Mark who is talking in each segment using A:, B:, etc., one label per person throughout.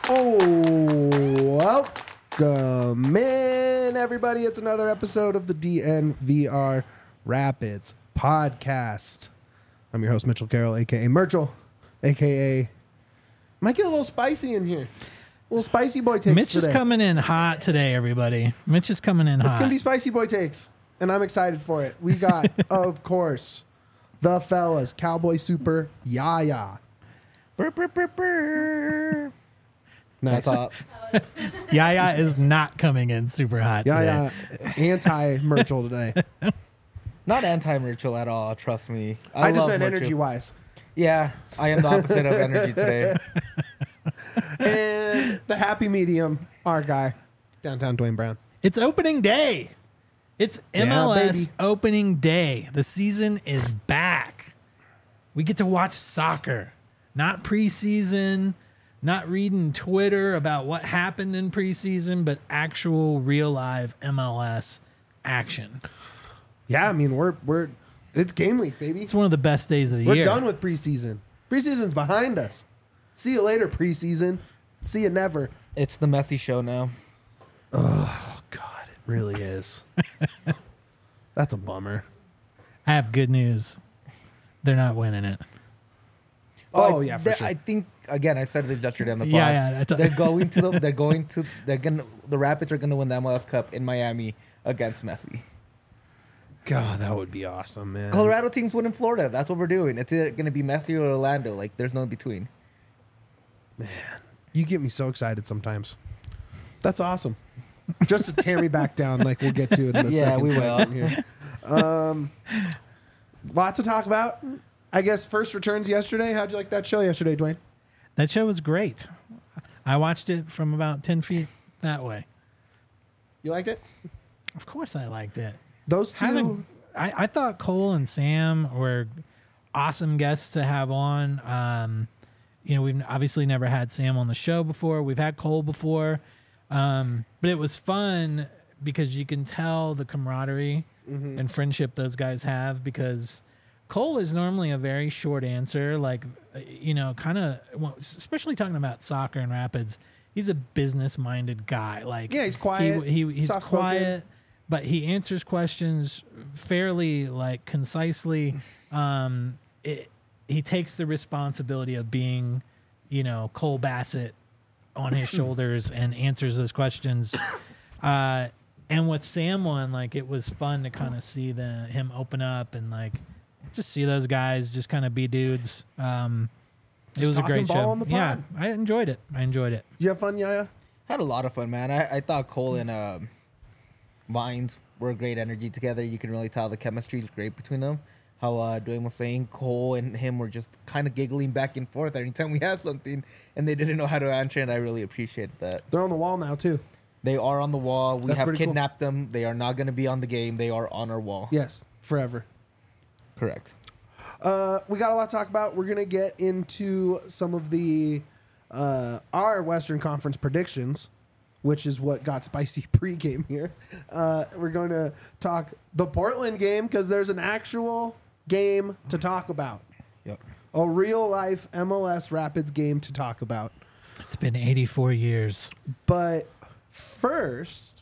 A: Oh, welcome in, everybody. It's another episode of the DNVR Rapids podcast. I'm your host, Mitchell Carroll, a.k.a. Merchel, a.k.a. Might get a little spicy in here. A little spicy boy takes
B: Mitch
A: today.
B: is coming in hot today, everybody. Mitch is coming in hot.
A: It's going to be spicy boy takes, and I'm excited for it. We got, of course, the fellas, Cowboy Super Yaya.
B: Brr, brr, brr, brr.
A: Nice.
B: Yaya is not coming in super hot today.
A: Yaya, anti-Merchel today.
C: Not anti-Merchel at all, trust me.
A: I just
C: love
A: meant
C: Merchel.
A: energy-wise.
C: Yeah, I am the opposite of energy today.
A: And the happy medium, our guy, downtown Dwayne Brown.
B: It's opening day. It's
A: Yeah,
B: MLS
A: baby.
B: opening day. The season is back. We get to watch soccer, not preseason, not reading Twitter about what happened in preseason, but actual real live MLS action.
A: Yeah, I mean, we're it's game week, baby.
B: It's one of the best days of the
A: We're
B: year.
A: done with preseason. Preseason's behind us. See you later, preseason. See you never.
C: It's the messy show now.
A: Oh, God, it really is. That's a bummer.
B: I have good news. They're not winning it.
A: Oh, yeah, for sure.
C: I think again. I said this yesterday on the pod.
B: Yeah.
C: The Rapids are gonna win the MLS Cup in Miami against Messi.
A: God, that would be awesome, man.
C: Colorado teams win in Florida. That's what we're doing. It's either gonna be Messi or Orlando. Like there's no in between.
A: You get me so excited sometimes. That's awesome. Just to tear me back down like we'll get to in the
C: Yeah,
A: second
C: we will.
A: segment here. Lots to talk about. I guess first returns yesterday. How'd you like that show yesterday, Dwayne?
B: That show was great. I watched it from about 10 feet that way.
A: You liked it?
B: Of course I liked it.
A: Those two.
B: I thought Cole and Sam were awesome guests to have on. We've obviously never had Sam on the show before. We've had Cole before. But it was fun because you can tell the camaraderie and friendship those guys have, because Cole is normally a very short answer, kind of, especially talking about soccer and Rapids. He's a business-minded guy.
A: Yeah, he's quiet,
B: He's
A: soft-spoken.
B: quiet, but he answers questions fairly, concisely. He takes the responsibility of being, Cole Bassett on his shoulders and answers those questions. And with Sam on, it was fun to kind of see him open up and just see those guys just kind of be dudes. It was a great
A: talking ball
B: show.
A: on the
B: Yeah,
A: pod.
B: I enjoyed it.
A: Did you have fun, Yaya?
C: Had a lot of fun, man. I thought Cole and Vines were great energy together. You can really tell the chemistry is great between them. How Dwayne was saying, Cole and him were just kind of giggling back and forth anytime we had something, and they didn't know how to answer, and I really appreciated that.
A: They're on the wall now, too.
C: They are on the wall. We
A: That's
C: have
A: pretty cool.
C: kidnapped them. They are not going to be on the game. They are on our wall.
A: Yes, forever.
C: Correct.
A: We got a lot to talk about. We're going to get into some of the our Western Conference predictions, which is what got spicy pregame here. We're going to talk the Portland game because there's an actual game to talk about.
C: Yep.
A: A real-life MLS Rapids game to talk about.
B: It's been 84 years.
A: But first,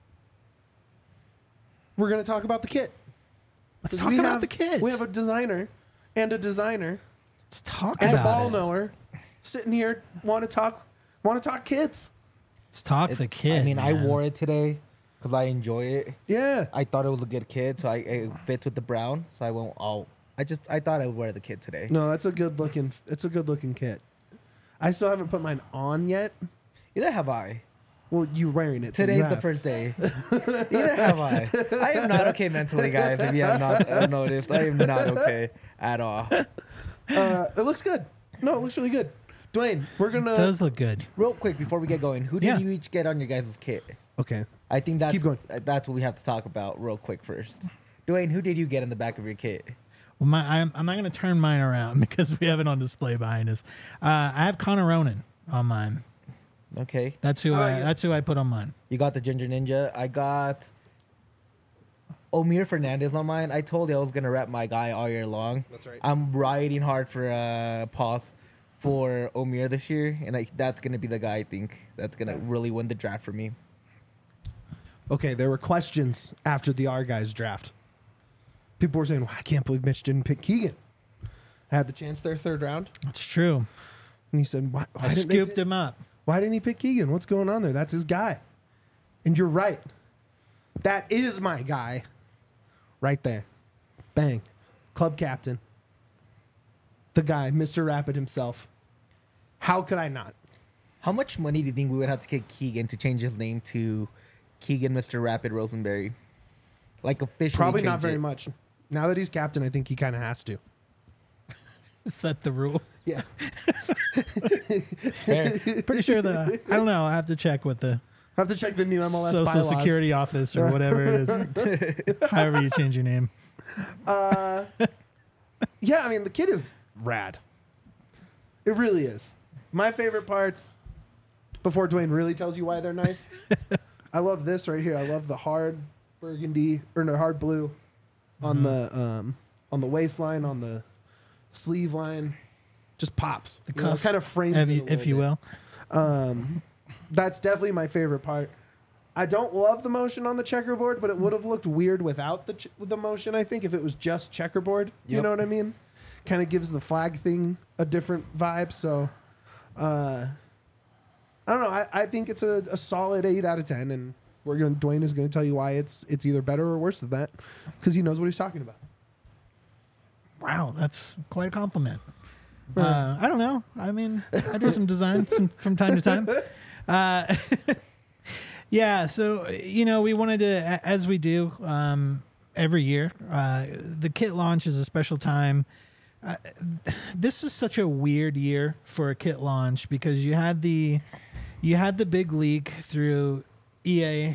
A: we're going to talk about the kit.
B: Let's talk about the kids.
A: We have a designer and a designer
B: Let's talk
A: and a
B: about
A: ball
B: it.
A: knower sitting here want to talk kids.
B: Let's talk the kid.
C: I mean, I
B: man.
C: wore it today because I enjoy it.
A: Yeah.
C: I thought it was a good kit, so it fits with the brown. So I won't. I thought I would wear the kit today.
A: No, that's a good looking kit. I still haven't put mine on yet.
C: Either have I.
A: Well, you wearing it. So you
C: Today's the
A: have.
C: first day. Either have I. I am not okay mentally, guys. If you have not noticed, I am not okay at all.
A: It looks good. No, it looks really good. Dwayne, we're
B: It
A: gonna.
B: does look good.
C: Real quick before we get going, who did
B: Yeah.
C: you each get on your guys' kit?
A: Okay.
C: I think
A: Keep going.
C: that's what we have to talk about real quick first. Dwayne, who did you get in the back of your kit?
B: Well, I'm not going to turn mine around because we have it on display behind us. I have Connor Ronan on mine.
C: Okay.
B: That's who I put on mine.
C: You got the Ginger Ninja. I got Omir Fernandez on mine. I told you I was gonna rep my guy all year long.
A: That's right.
C: I'm riding hard for Paz for Omir this year, and that's gonna be the guy I think that's gonna really win the draft for me.
A: Okay, there were questions after the R guys draft. People were saying, well, I can't believe Mitch didn't pick Keegan. Had the chance there, third round.
B: That's true.
A: And he said, why
B: I
A: didn't they
B: scooped
A: pick-
B: him up.
A: Why didn't he pick Keegan? What's going on there? That's his guy. And you're right. That is my guy. Right there. Bang. Club captain. The guy, Mr. Rapid himself. How could I not?
C: How much money do you think we would have to get Keegan to change his name to Keegan Mr. Rapid Rosenberry? Like officially
A: Probably not
C: change
A: very
C: it?
A: much. Now that he's captain, I think he kind of has to.
B: Is that the rule?
A: Yeah.
C: Fair.
B: Pretty sure I don't know. I have to check with the
A: Have to check the new MLS
B: Social
A: bylaws.
B: Security office or whatever it is. However you change your name.
A: Yeah, I mean, the kid is rad. It really is. My favorite parts, before Dwayne really tells you why they're nice, I love this right here. I love the hard burgundy, or no, hard blue on the waistline, on the sleeve line. Just pops.
B: The
A: You know,
B: cuff,
A: kind of frames
B: if
A: it a
B: you,
A: little
B: if you
A: bit.
B: will.
A: That's definitely my favorite part. I don't love the motion on the checkerboard, but it would have looked weird without the motion, I think, if it was just checkerboard. You
C: Yep.
A: know what I mean? Kind of gives the flag thing a different vibe. So, I don't know. I think it's a solid 8 out of 10, and Dwayne is going to tell you why it's either better or worse than that, because he knows what he's talking about.
B: Wow, that's quite a compliment. I don't know. I mean, I do some design from time to time. Yeah, so, we wanted to, as we do every year, the kit launch is a special time. This is such a weird year for a kit launch because you had the big leak through EA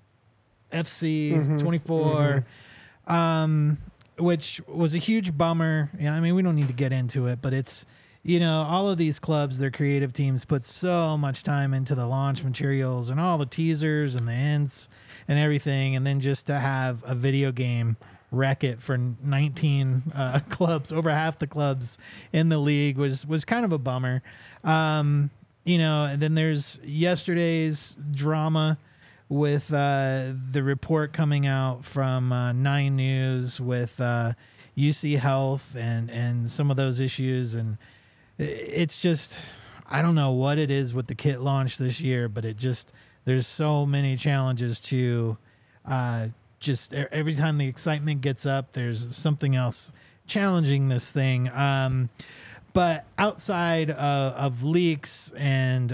B: FC 24, which was a huge bummer. Yeah, I mean, we don't need to get into it, but it's, all of these clubs, their creative teams put so much time into the launch materials and all the teasers and the hints and everything. And then just to have a video game wreck it for 19 clubs, over half the clubs in the league was kind of a bummer. And then there's yesterday's drama with the report coming out from 9 News with UC Health and some of those issues. And it's just, I don't know what it is with the kit launch this year, but there's so many challenges to just every time the excitement gets up, there's something else challenging this thing. But outside of leaks and,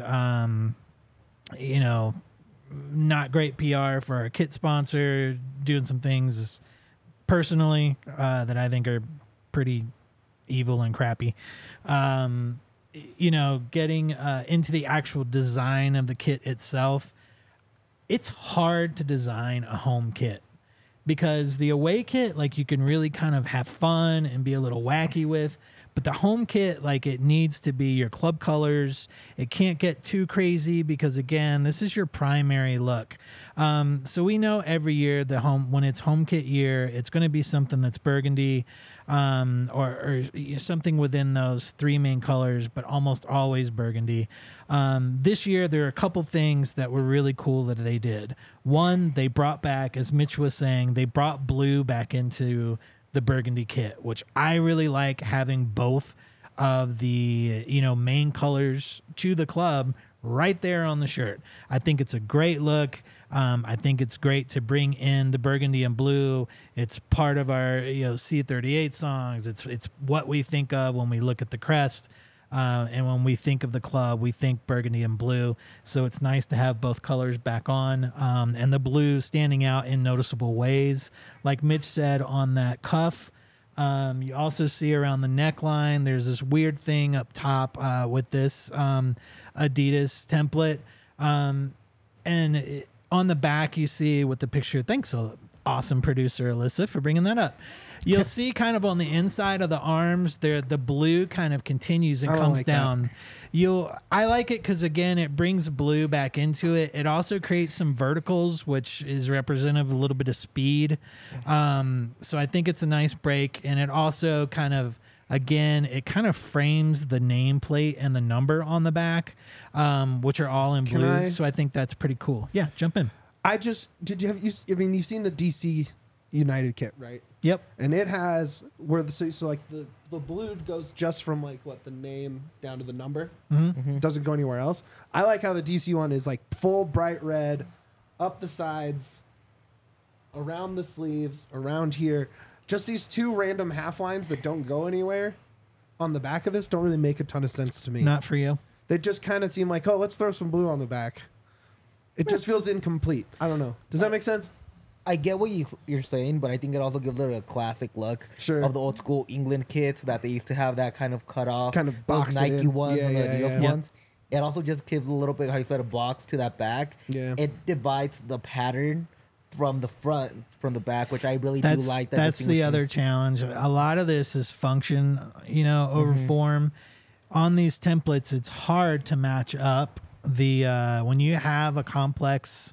B: not great PR for our kit sponsor, doing some things personally that I think are pretty evil and crappy. Getting into the actual design of the kit itself, it's hard to design a home kit because the away kit, like, you can really kind of have fun and be a little wacky with. But the home kit, like, it needs to be your club colors. It can't get too crazy because, again, this is your primary look. So we know every year when it's home kit year, it's going to be something that's burgundy or something within those 3 main colors, but almost always burgundy. This year, there are a couple things that were really cool that they did. One, they brought back, as Mitch was saying, they brought blue back into the burgundy kit, which I really like, having both of the main colors to the club right there on the shirt. I think it's a great look. I think it's great to bring in the burgundy and blue. It's part of our C38 songs. It's what we think of when we look at the crest. And when we think of the club, we think burgundy and blue. So it's nice to have both colors back on, and the blue standing out in noticeable ways. Like Mitch said, on that cuff, you also see around the neckline, there's this weird thing up top with this Adidas template. On the back, you see with the picture, thanks, awesome producer Alyssa, for bringing that up. You'll see kind of on the inside of the arms there, the blue kind of continues and comes
A: like
B: down. I like it because, again, it brings blue back into it. It also creates some verticals, which is representative of a little bit of speed. So I think it's a nice break, and it also kind of Again, it kind of frames the nameplate and the number on the back, which are all in blue. So I think that's pretty cool. Yeah, jump in.
A: You've seen the DC United kit, right?
B: Yep.
A: And it has where so like the blue goes just from like the name down to the number.
B: Mm-hmm.
A: Doesn't go anywhere else. I like how the DC one is like full bright red, up the sides, around the sleeves, around here. Just these two random half lines that don't go anywhere on the back of this don't really make a ton of sense to me.
B: Not for you.
A: They just kind of seem like, oh, let's throw some blue on the back. It just feels incomplete. I don't know. Does that make sense?
C: I get what you're saying, but I think it also gives it a classic look of the old school England kits that they used to have that kind of cut off,
A: kind of box
C: those Nike ones and the Adidas
B: Yeah.
C: ones. It also just gives a little bit, how you said, a box to that back.
A: Yeah.
C: It divides the pattern from the front, from the back, which I really do like.
B: That's the other challenge. A lot of this is function, over form. On these templates, it's hard to match up the when you have a complex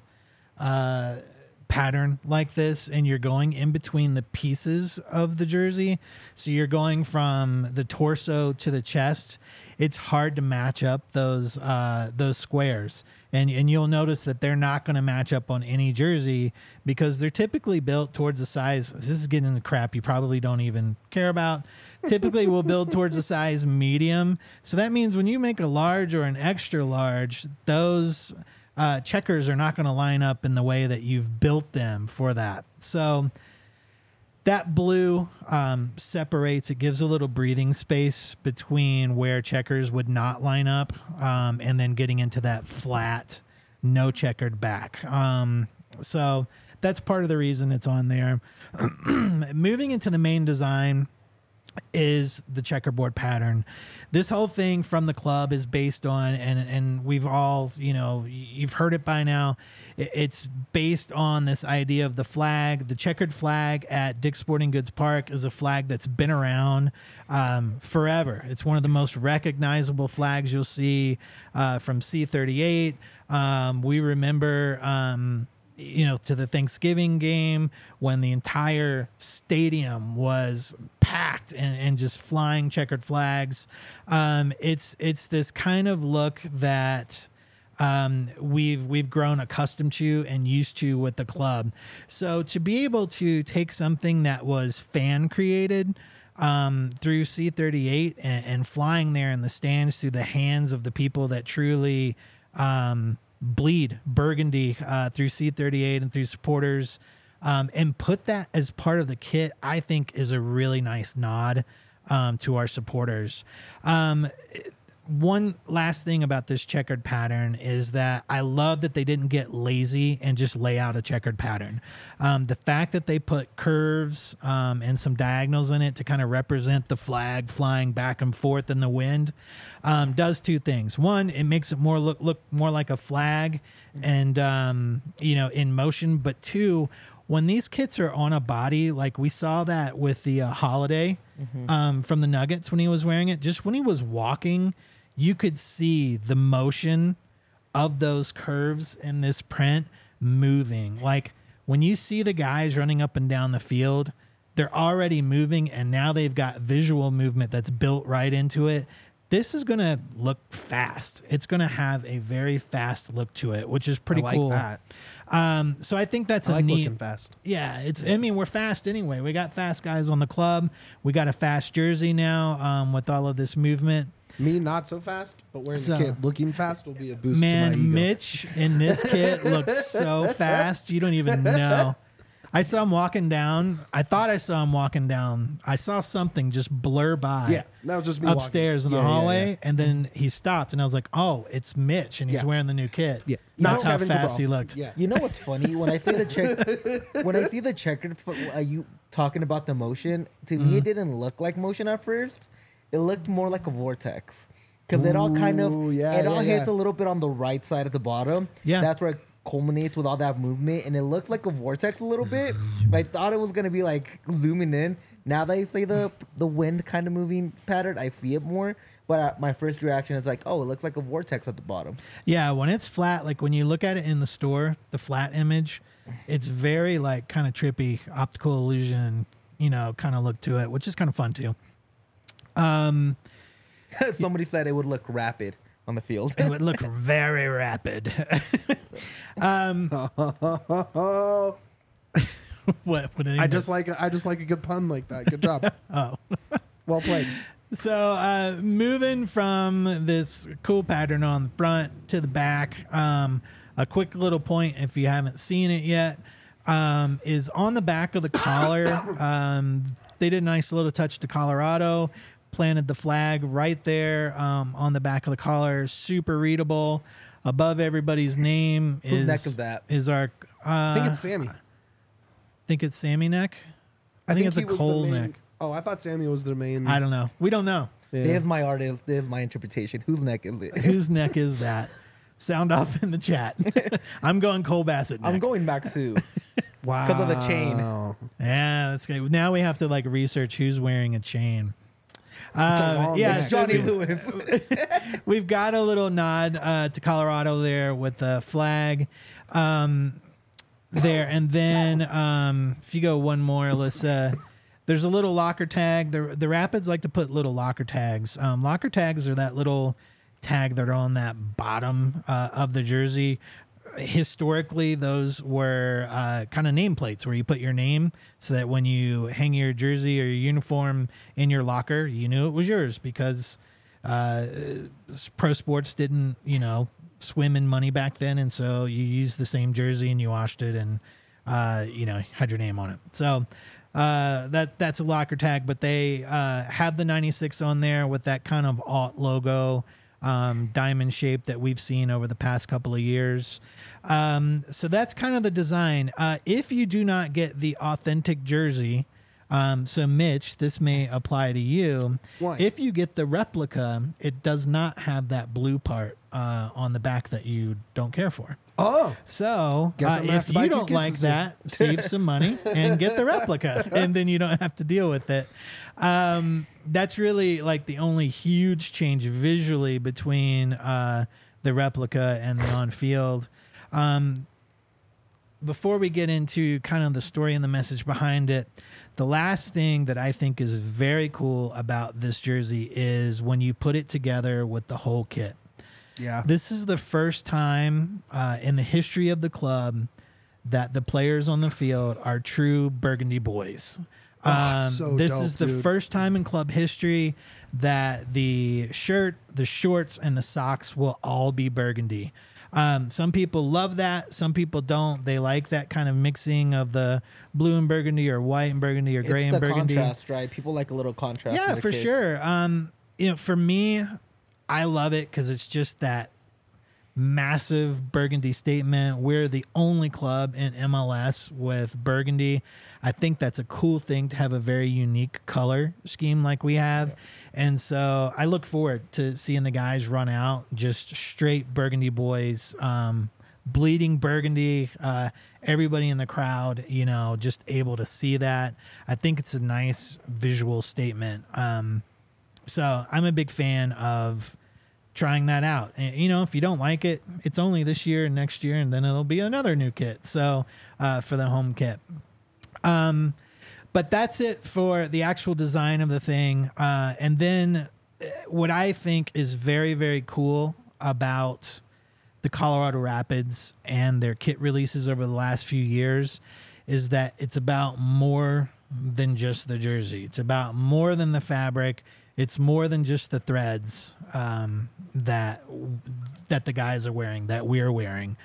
B: pattern like this and you're going in between the pieces of the jersey, so you're going from the torso to the chest, it's hard to match up those squares, and you'll notice that they're not going to match up on any jersey because they're typically built towards the size. This is getting into crap you probably don't even care about. Typically we'll build towards the size medium, so that means when you make a large or an extra large, those checkers are not going to line up in the way that you've built them for that. So that blue separates. It gives a little breathing space between where checkers would not line up and then getting into that flat, no checkered back. So that's part of the reason it's on there. Moving into the main design is the checkerboard pattern. This whole thing from the club is based on, and we've all, you've heard it by now. It's based on this idea of the flag. The checkered flag at Dick's Sporting Goods Park is a flag that's been around forever. It's one of the most recognizable flags you'll see from C38. We remember to the Thanksgiving game when the entire stadium was packed and just flying checkered flags. It's this kind of look that we've grown accustomed to and used to with the club. So to be able to take something that was fan created through C38 and flying there in the stands through the hands of the people that truly bleed burgundy through C38 and through supporters, and put that as part of the kit, I think is a really nice nod to our supporters. One last thing about this checkered pattern is that I love that they didn't get lazy and just lay out a checkered pattern. The fact that they put curves and some diagonals in it to kind of represent the flag flying back and forth in the wind does two things. One, it makes it look more like a flag and in motion. But two, when these kits are on a body, like we saw that with the Holiday from the Nuggets when he was wearing it, just when he was walking, you could see the motion of those curves in this print moving. Like when you see the guys running up and down the field, they're already moving, and now they've got visual movement that's built right into it. This is going to look fast. It's going to have a very fast look to it, which is pretty cool.
A: That.
B: So I think that's
A: I like
B: neat.
A: looking fast.
B: Yeah, we're fast anyway. We got fast guys on the club. We got a fast jersey now with all of this movement.
A: Me, not so fast, but wearing the kit looking fast will be a boost to
B: Man,
A: my ego.
B: Mitch in this kit looks so fast. You don't even know. I saw him walking down. I thought I saw him walking down. I saw something just blur by.
A: Yeah, that was just me
B: upstairs
A: walking.
B: in the hallway, and then he stopped, and I was like, "Oh, it's Mitch," and he's wearing the new kit.
A: Yeah,
B: That's how fast he looked.
A: Yeah,
C: You know what's funny? When I see the checkered, you talking about the motion, to me it didn't look like motion at first. It looked more like a vortex because it all kind of hits a little bit on the right side at the bottom.
B: Yeah,
C: that's where it culminates with all that movement, and it looked like a vortex a little bit. But I thought it was gonna be like zooming in. Now that you say the wind kind of moving pattern, I see it more. But my first reaction is like, oh, it looks like a vortex at the bottom.
B: Yeah, when it's flat, like when you look at it in the store, the flat image, it's very like kind of trippy, optical illusion, kind of look to it, which is kind of fun too.
C: Somebody said it would look rapid on the field.
B: It would look very rapid.
A: Oh,
B: What?
A: I just like a good pun like that. Good job.
B: Oh.
A: Well played.
B: So moving from this cool pattern on the front to the back, a quick little point if you haven't seen it yet, is on the back of the collar. They did a nice little touch to Colorado, planted the flag right there on the back of the collar, super readable. Above everybody's name
C: Whose neck is that?
B: Is our
A: I think it's Sammy.
B: think it's Sammy neck. I think it's
A: he
B: a
A: was the
B: Cole
A: main-
B: neck.
A: Oh, I thought Sammy was the main.
B: I don't know. We don't know.
A: Yeah.
C: There's my artist. There's my interpretation. Whose neck is it?
B: Whose neck is that? Sound off in the chat. I'm going Cole Bassett neck.
C: I'm going back Sue.
A: Wow.
C: 'Cause of the chain.
B: Yeah, that's good. Now we have to like research who's wearing a chain.
A: long
B: Yeah,
A: neck.
B: so
C: Johnny Lewis.
B: we've got a little nod to Colorado there with the flag there. And then if you go one more, Alyssa, there's a little locker tag. The Rapids like to put little locker tags. Locker tags are that little tag that are on that bottom of the jersey. Historically, those were kind of nameplates where you put your name so that when you hang your jersey or your uniform in your locker, you knew it was yours because pro sports didn't, swim in money back then. And so you used the same jersey and you washed it and, had your name on it. So that's a locker tag, but they have the 96 on there with that kind of alt logo. Diamond shape that we've seen over the past couple of years. So that's kind of the design. If you do not get the authentic jersey, so Mitch, this may apply to you.
A: Why?
B: If you get the replica, it does not have that blue part on the back that you don't care for.
A: Oh,
B: So
A: Guess I'm gonna have
B: if
A: to buy
B: you
A: two
B: don't
A: kits
B: like
A: this year.
B: that, save some money and get the replica, and then you don't have to deal with it. That's really like the only huge change visually between the replica and the on-field. Before we get into kind of the story and the message behind it, the last thing that I think is very cool about this jersey is when you put it together with the whole kit.
A: yeah.
B: This is the first time in the history of the club that the players on the field are true Burgundy boys.
A: So
B: This
A: dope,
B: is the
A: dude.
B: first time in club history that the shirt, the shorts, and the socks will all be burgundy. Some people love that. Some people don't. They like that kind of mixing of the blue and burgundy or white and burgundy or gray
C: It's
B: and
C: the
B: burgundy.
C: contrast, right? People like a little contrast.
B: Yeah,
C: with the
B: for
C: kids.
B: sure. For me, I love it because it's just that massive burgundy statement. We're the only club in MLS with burgundy. I think that's a cool thing to have a very unique color scheme like we have. And so I look forward to seeing the guys run out just straight burgundy boys, bleeding burgundy, everybody in the crowd, just able to see that. I think it's a nice visual statement. So I'm a big fan of trying that out. And, if you don't like it, it's only this year and next year, and then it'll be another new kit. So for the home kit. But that's it for the actual design of the thing. And then what I think is very, very cool about the Colorado Rapids and their kit releases over the last few years is that it's about more than just the jersey. It's about more than the fabric. It's more than just the threads that the guys are wearing, that we're wearing.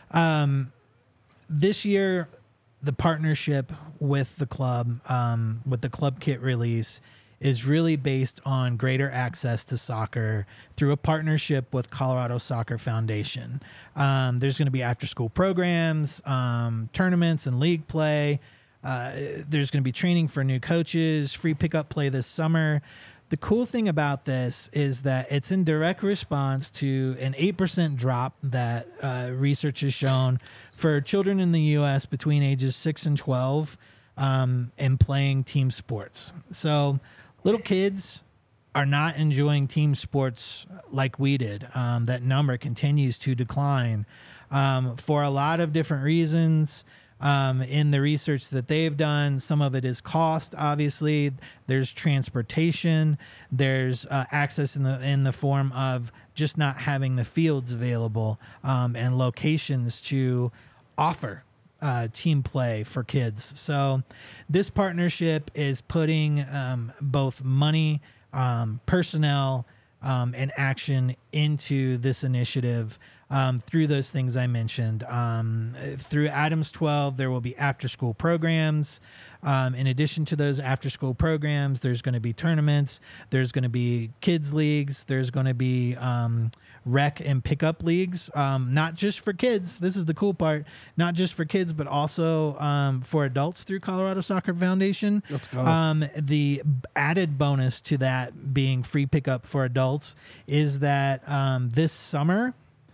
B: This year, the partnership with the club kit release is really based on greater access to soccer through a partnership with Colorado Soccer Foundation. There's going to be after-school programs, tournaments, and league play. There's going to be training for new coaches, free pickup play this summer. The cool thing about this is that it's in direct response to an 8% drop that research has shown for children in the U.S. between ages 6 and 12 and playing team sports. So little kids are not enjoying team sports like we did. That number continues to decline for a lot of different reasons. in the research that they've done. Some of it is cost, obviously. There's transportation. There's access in the form of just not having the fields available and locations to offer team play for kids. So this partnership is putting both money, personnel, and action into this initiative through those things I mentioned. Through Adams 12, there will be after-school programs. In addition to those after-school programs, there's going to be tournaments. There's going to be kids leagues. There's going to be rec and pickup leagues, not just for kids. This is the cool part. Not just for kids, but also for adults through Colorado Soccer Foundation.
A: Let's go.
B: The added bonus to that being free pickup for adults is that this summer,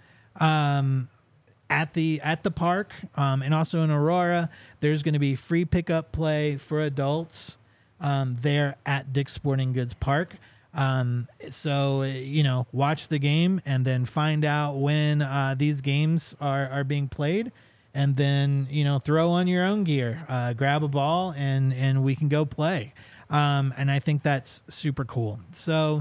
B: at the park and also in Aurora, there's going to be free pickup play for adults there at Dick's Sporting Goods Park. So watch the game and then find out when these games are being played, and then throw on your own gear, grab a ball, and we can go play. And I think that's super cool. So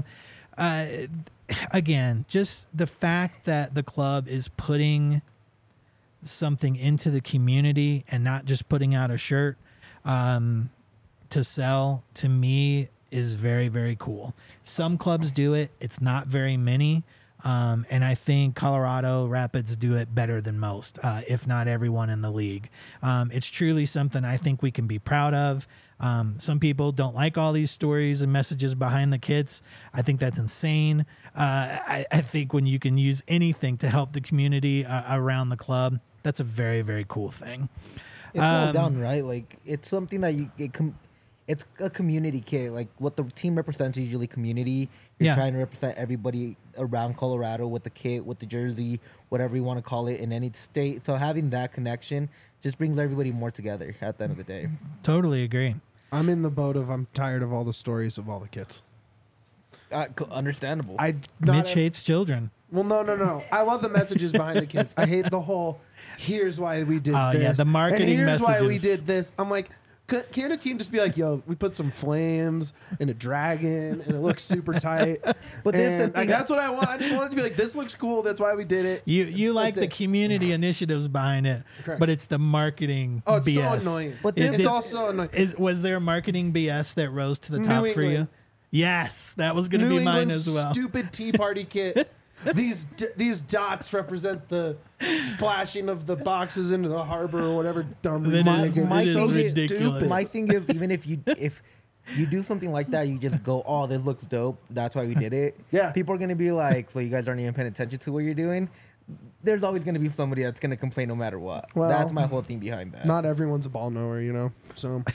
B: again, just the fact that the club is putting something into the community and not just putting out a shirt to sell, to me, is very, very cool. Some clubs do it. It's not very many. And I think Colorado Rapids do it better than most, if not everyone in the league. It's truly something I think we can be proud of. Some people don't like all these stories and messages behind the kits. I think that's insane. I think when you can use anything to help the community around the club, that's a very, very cool thing.
C: It's well done, right? Like, it's something that it's a community kit. Like, what the team represents is usually community. You're trying to represent everybody around Colorado with the kit, with the jersey, whatever you want to call it, in any state. So having that connection just brings everybody more together at the end of the day.
B: Totally agree.
A: I'm in the boat of I'm tired of all the stories of all the kids.
C: Understandable.
B: Mitch hates children.
A: Well, no. I love the messages behind the kids. I hate the whole, here's why we did this.
B: Yeah, the marketing
A: and here's
B: messages.
A: why we did this. I'm like, can a team just be like, yo, we put some flames and a dragon and it looks super tight.
C: But
A: that's what I want. I just want it to be like, this looks cool. That's why we did it.
B: You like the community initiatives behind it,
A: Correct.
B: but it's the marketing
A: Oh, it's
B: BS.
A: so annoying.
C: But
A: It's also annoying.
B: Was there marketing BS that rose to the
A: New
B: top for you?
A: England.
B: Yes, that was going to
A: New
B: be mine
A: England
B: as well.
A: Stupid Tea Party kit. These dots represent the splashing of the boxes into the harbor or whatever dumb
B: That
A: reason.
B: is
A: So
B: ridiculous.
A: stupid.
C: My thing is, even if you do something like that, you just go, oh, this looks dope. That's why we did it.
A: Yeah.
C: People are going to be like, so you guys aren't even paying attention to what you're doing. There's always going to be somebody that's going to complain no matter what.
A: Well,
C: That's my whole thing behind that.
A: Not everyone's a ball knower, So,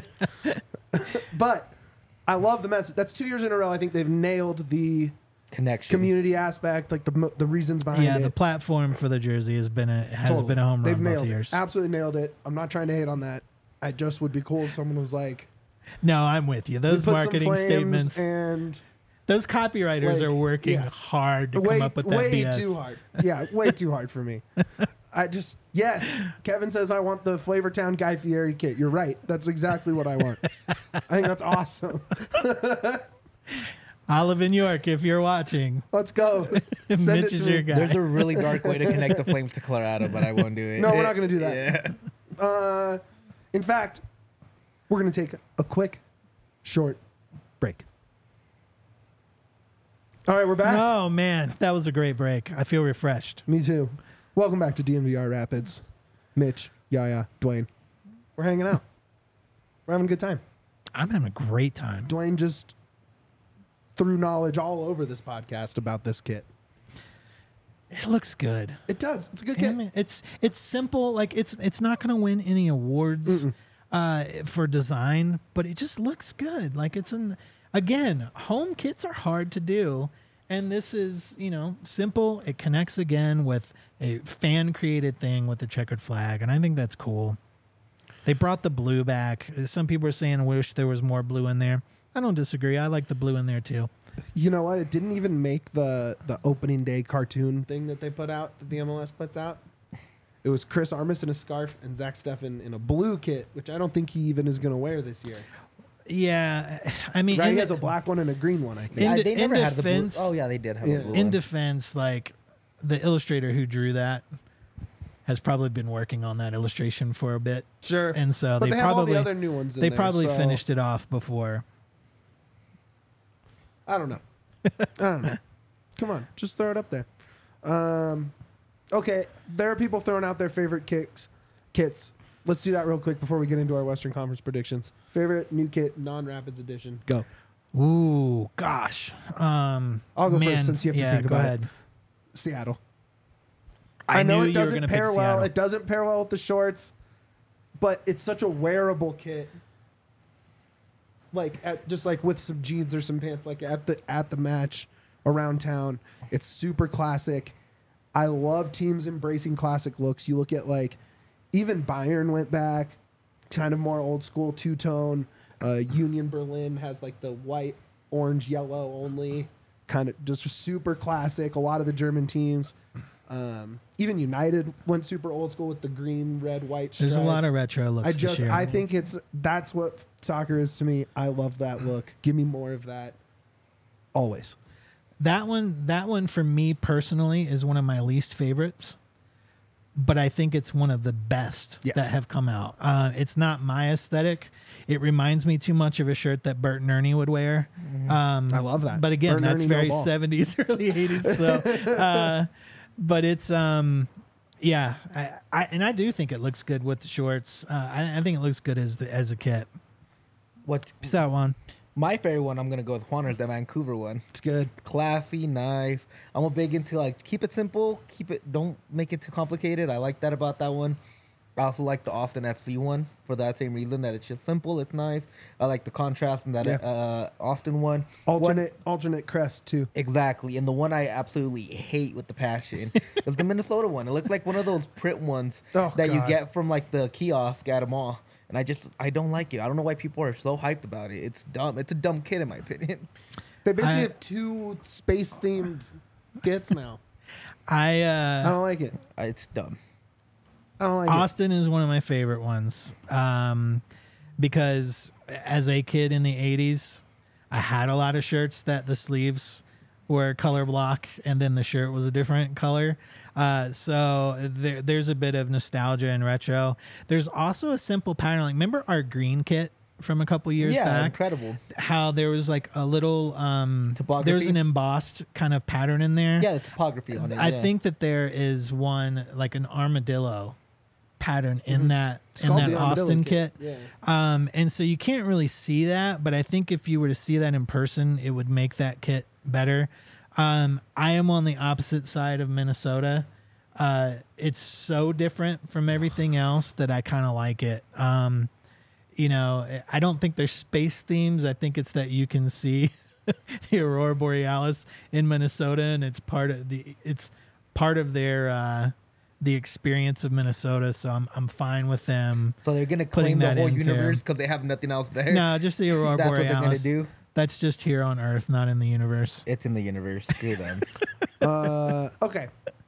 A: but I love the message. That's 2 years in a row. I think they've nailed the
C: Connection.
A: community aspect, like the reasons behind it.
B: The platform for the jersey has been a
A: Totally.
B: home
A: They've
B: run
A: nailed
B: both
A: it.
B: years.
A: Absolutely nailed it. I'm not trying to hate on that. I just would be cool if someone was like,
B: No, I'm with you.
A: we
B: Those
A: put some
B: marketing
A: flames
B: statements,
A: and
B: those copywriters
A: like,
B: are working
A: yeah.
B: hard to
A: way,
B: come up with that
A: way
B: BS.
A: too hard. Yeah, way too hard for me. Yes. Kevin says I want the Flavortown Guy Fieri kit. You're right. That's exactly what I want. I think that's awesome.
B: Olive in York, if you're watching,
A: Let's go. Send
B: Mitch
A: it
B: is
A: to
B: your
A: me.
B: guy.
C: There's a really dark way to connect the Flames to Colorado, but I won't do it.
A: No, we're not going to do that.
C: Yeah.
A: In fact, we're going to take a quick, short break. All right, we're back.
B: Oh man, that was a great break. I feel refreshed.
A: Me too. Welcome back to DNVR Rapids. Mitch, Yaya, Dwayne. We're hanging out. We're having a good time.
B: I'm having a great time.
A: Dwayne just threw knowledge all over this podcast about this kit.
B: It looks good.
A: It does. It's a good
B: Damn
A: kit.
B: it. It's simple. Like it's not going to win any awards for design, but it just looks good. Like again, home kits are hard to do. And this is, simple. It connects again with a fan created thing with the checkered flag. And I think that's cool. They brought the blue back. Some people are saying, I wish there was more blue in there. I don't disagree. I like the blue in there too.
A: You know what? It didn't even make the opening day cartoon thing that they put out, that the MLS puts out. It was Chris Armas in a scarf and Zach Steffen in a blue kit, which I don't think he even is going to wear this year.
B: Yeah, I mean,
A: Right? He has a black one and a green one, I think.
C: They never had the blue.
B: defense-
C: Oh yeah, they did have a blue
B: in
C: one.
B: defense, like the illustrator who drew that has probably been working on that illustration for a bit,
A: Sure.
B: and so
A: But
B: they
A: they have all
B: probably
A: the other new ones in
B: they
A: there,
B: probably
A: so-
B: finished it off before.
A: I don't know. I don't know. Come on, just throw it up there. Okay, there are people throwing out their favorite kits. Let's do that real quick before we get into our Western Conference predictions. Favorite new kit, non-Rapids edition. Go.
B: Ooh, gosh.
A: I'll go first since you have to think
B: go
A: about
B: ahead.
A: it. Seattle.
B: I
A: know
B: knew
A: it
B: you were
A: doesn't
B: gonna
A: pair
B: pick
A: well.
B: Seattle.
A: It doesn't pair well with the shorts, but it's such a wearable kit. Like just like with some jeans or some pants, like at the match around town. It's super classic. I love teams embracing classic looks. You look at like even Bayern went back, kind of more old school two-tone. Union Berlin has like the white, orange, yellow only, kind of just super classic. A lot of the German teams. Even United went super old school with the green, red, white stripes.
B: There's a lot of retro looks. this year.
A: I think that's what soccer is to me. I love that look. Give me more of that. Always.
B: That one for me personally is one of my least favorites, but I think it's one of the best
A: Yes.
B: that have come out. It's not my aesthetic. It reminds me too much of a shirt that Bert and Ernie would wear.
A: I love that.
B: But again,
A: Bert and
B: that's
A: Ernie, no
B: very
A: ball.
B: 70s, early 80s. So, but it's yeah. I do think it looks good with the shorts. I think it looks good as a kit.
C: What
B: Peace out, Juan.
C: my favorite one? I'm gonna go with Juaner's, the Vancouver one.
A: It's good.
C: Classy, nice. I'm a big into like keep it simple, don't make it too complicated. I like that about that one. I also like the Austin FC one for that same reason that it's just simple, it's nice. I like the contrast in that Austin one.
A: Alternate crest too.
C: Exactly, and the one I absolutely hate with the passion is the Minnesota one. It looks like one of those print ones
A: Oh,
C: that you
A: God.
C: get from like the kiosk at a mall. And I don't like it. I don't know why people are so hyped about it. It's dumb. It's a dumb kid in my opinion.
A: They basically
B: I-
A: have two space themed kits now.
B: I
A: I don't like it.
C: It's dumb.
A: I don't like it.
B: Austin is one of my favorite ones because as a kid in the 80s, I had a lot of shirts that the sleeves were color block and then the shirt was a different color. So there's a bit of nostalgia and retro. There's also a simple pattern. Like, remember our green kit from a couple years
C: Yeah,
B: back?
C: incredible.
B: How there was like a little
C: Topography?
B: there's an embossed kind of pattern in there.
C: Yeah, the topography on it.
B: I
C: yeah.
B: think that there is one like an armadillo pattern in that
A: It's
B: in
A: called
B: that
A: the Armadillo
B: Austin kit.
A: Yeah.
B: And so you can't really see that, but I think if you were to see that in person, it would make that kit better. I am on the opposite side of Minnesota. It's so different from everything else that I kind of like it. You know, I don't think there's space themes. I think it's that you can see the Aurora Borealis in Minnesota, and it's part of their the experience of Minnesota. So I'm fine with them.
C: So they're gonna
B: putting
C: claim the
B: that
C: whole
B: into-
C: universe because they have nothing else there.
B: No, just the Aurora
C: That's what
B: Borealis.
C: they're gonna do.
B: That's just here on Earth, not in the universe.
C: It's in the universe. Screw them.
A: Okay.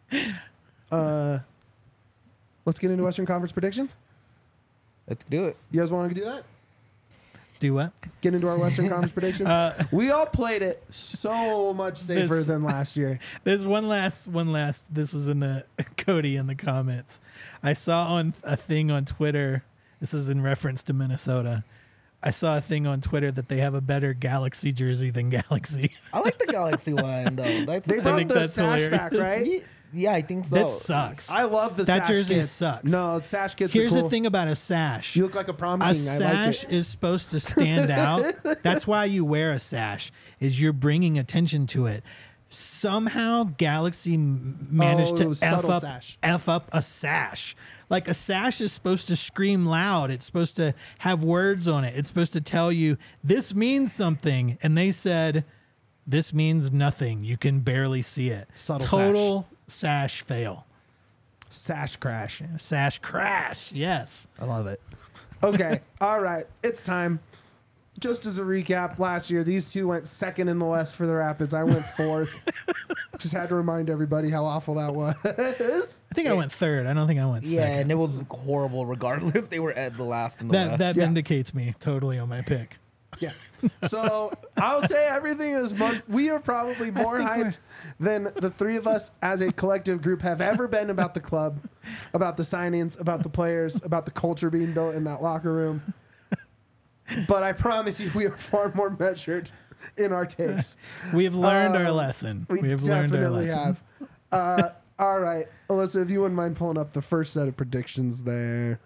A: Let's get into Western Conference predictions.
C: Let's do it.
A: You guys want to do that?
B: Do what?
A: Get into our Western Conference predictions. We all played it so much safer
B: This-
A: than last year.
B: There's one last. This was in the Cody in the comments. I saw on a thing on Twitter. This is in reference to Minnesota. I saw a thing on Twitter that they have a better Galaxy jersey than Galaxy.
C: I like the Galaxy one though. That's
A: They brought
B: think
A: the
B: that's
A: sash
B: hilarious.
A: back, right?
C: Yeah, I think so.
B: That sucks.
A: I love the
B: That
A: sash
B: jersey
A: kits.
B: sucks.
A: No, sash kits
B: Here's
A: are cool.
B: the thing about a sash.
A: You look like a prom
B: A
A: king. I like
B: sash
A: it.
B: is supposed to stand out. That's why you wear a sash, is you're bringing attention to it. Somehow Galaxy managed
A: Oh, it
B: to
A: was
B: F
A: subtle
B: up,
A: sash.
B: F up a sash. Like, a sash is supposed to scream loud. It's supposed to have words on it. It's supposed to tell you, this means something. And they said, this means nothing. You can barely see it.
A: Subtle
B: Total sash fail.
A: Sash crash.
B: Sash crash. Yes.
A: I love it. Okay. All right. It's time. just as a recap, last year these two went second in the West for the Rapids. I went fourth. Just had to remind everybody how awful that was.
B: I think I went third. I don't think I went
C: Yeah,
B: second.
C: and it was horrible regardless. They were at the last in the West.
B: That
A: Yeah.
B: vindicates me totally on my pick.
A: Yeah. So I'll say everything is much. We are probably more
B: think
A: hyped than the three of us as a collective group have ever been about the club, about the signings, about the players, about the culture being built in that locker room. But I promise you, we are far more measured in our takes.
B: We have learned our lesson.
A: We
B: have learned our
A: definitely
B: lesson.
A: have. All right, Alyssa, if you wouldn't mind pulling up the first set of predictions there.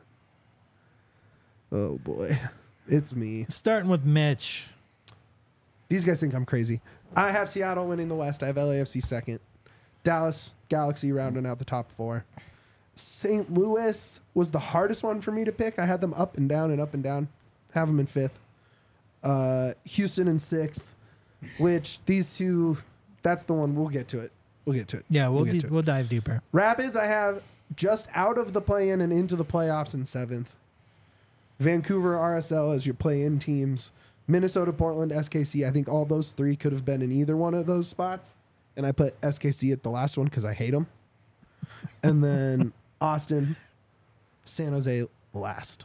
A: Oh boy, it's me.
B: Starting with Mitch.
A: These guys think I'm crazy. I have Seattle winning the West. I have LAFC second. Dallas Galaxy rounding out the top four. St. Louis was the hardest one for me to pick. I had them up and down and up and down. Have them in fifth. Houston in sixth, which these two, that's the one. We'll get to it. We'll get to it.
B: Yeah, we'll
A: get to it.
B: we'll dive deeper.
A: Rapids, I have just out of the play-in and into the playoffs in seventh. Vancouver, RSL as your play-in teams. Minnesota, Portland, SKC. I think all those three could have been in either one of those spots. And I put SKC at the last one because I hate them. And then Austin, San Jose last.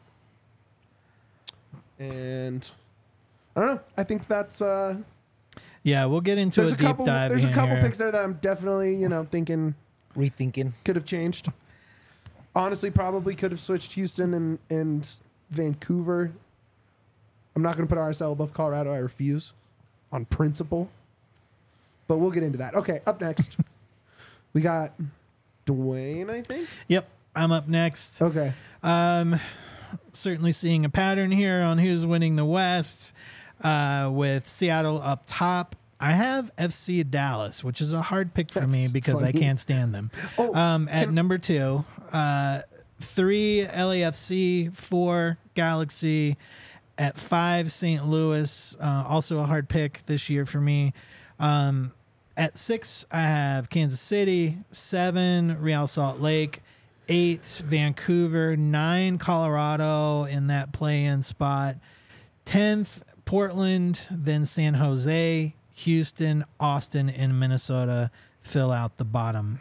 A: And I don't know. I think that's...
B: Yeah, we'll get into
A: there's
B: a deep dive.
A: There's a couple
B: here.
A: picks there that I'm definitely, thinking
C: Rethinking.
A: could have changed. Honestly, probably could have switched Houston and Vancouver. I'm not going to put RSL above Colorado. I refuse on principle. But we'll get into that. Okay, up next. We got Dwayne, I think.
B: Yep, I'm up next.
A: Okay.
B: Certainly seeing a pattern here on who's winning the West. With Seattle up top, I have FC Dallas, which is a hard pick for me
A: That's
B: because I
A: funny.
B: can't stand them.
A: Oh,
B: At number 2, 3 LAFC, 4 Galaxy. At 5 St. Louis, also a hard pick this year for me. At 6, I have Kansas City. 7 Real Salt Lake. 8 Vancouver. 9 Colorado in that play-in spot. 10th Portland, then San Jose, Houston, Austin, and Minnesota fill out the bottom.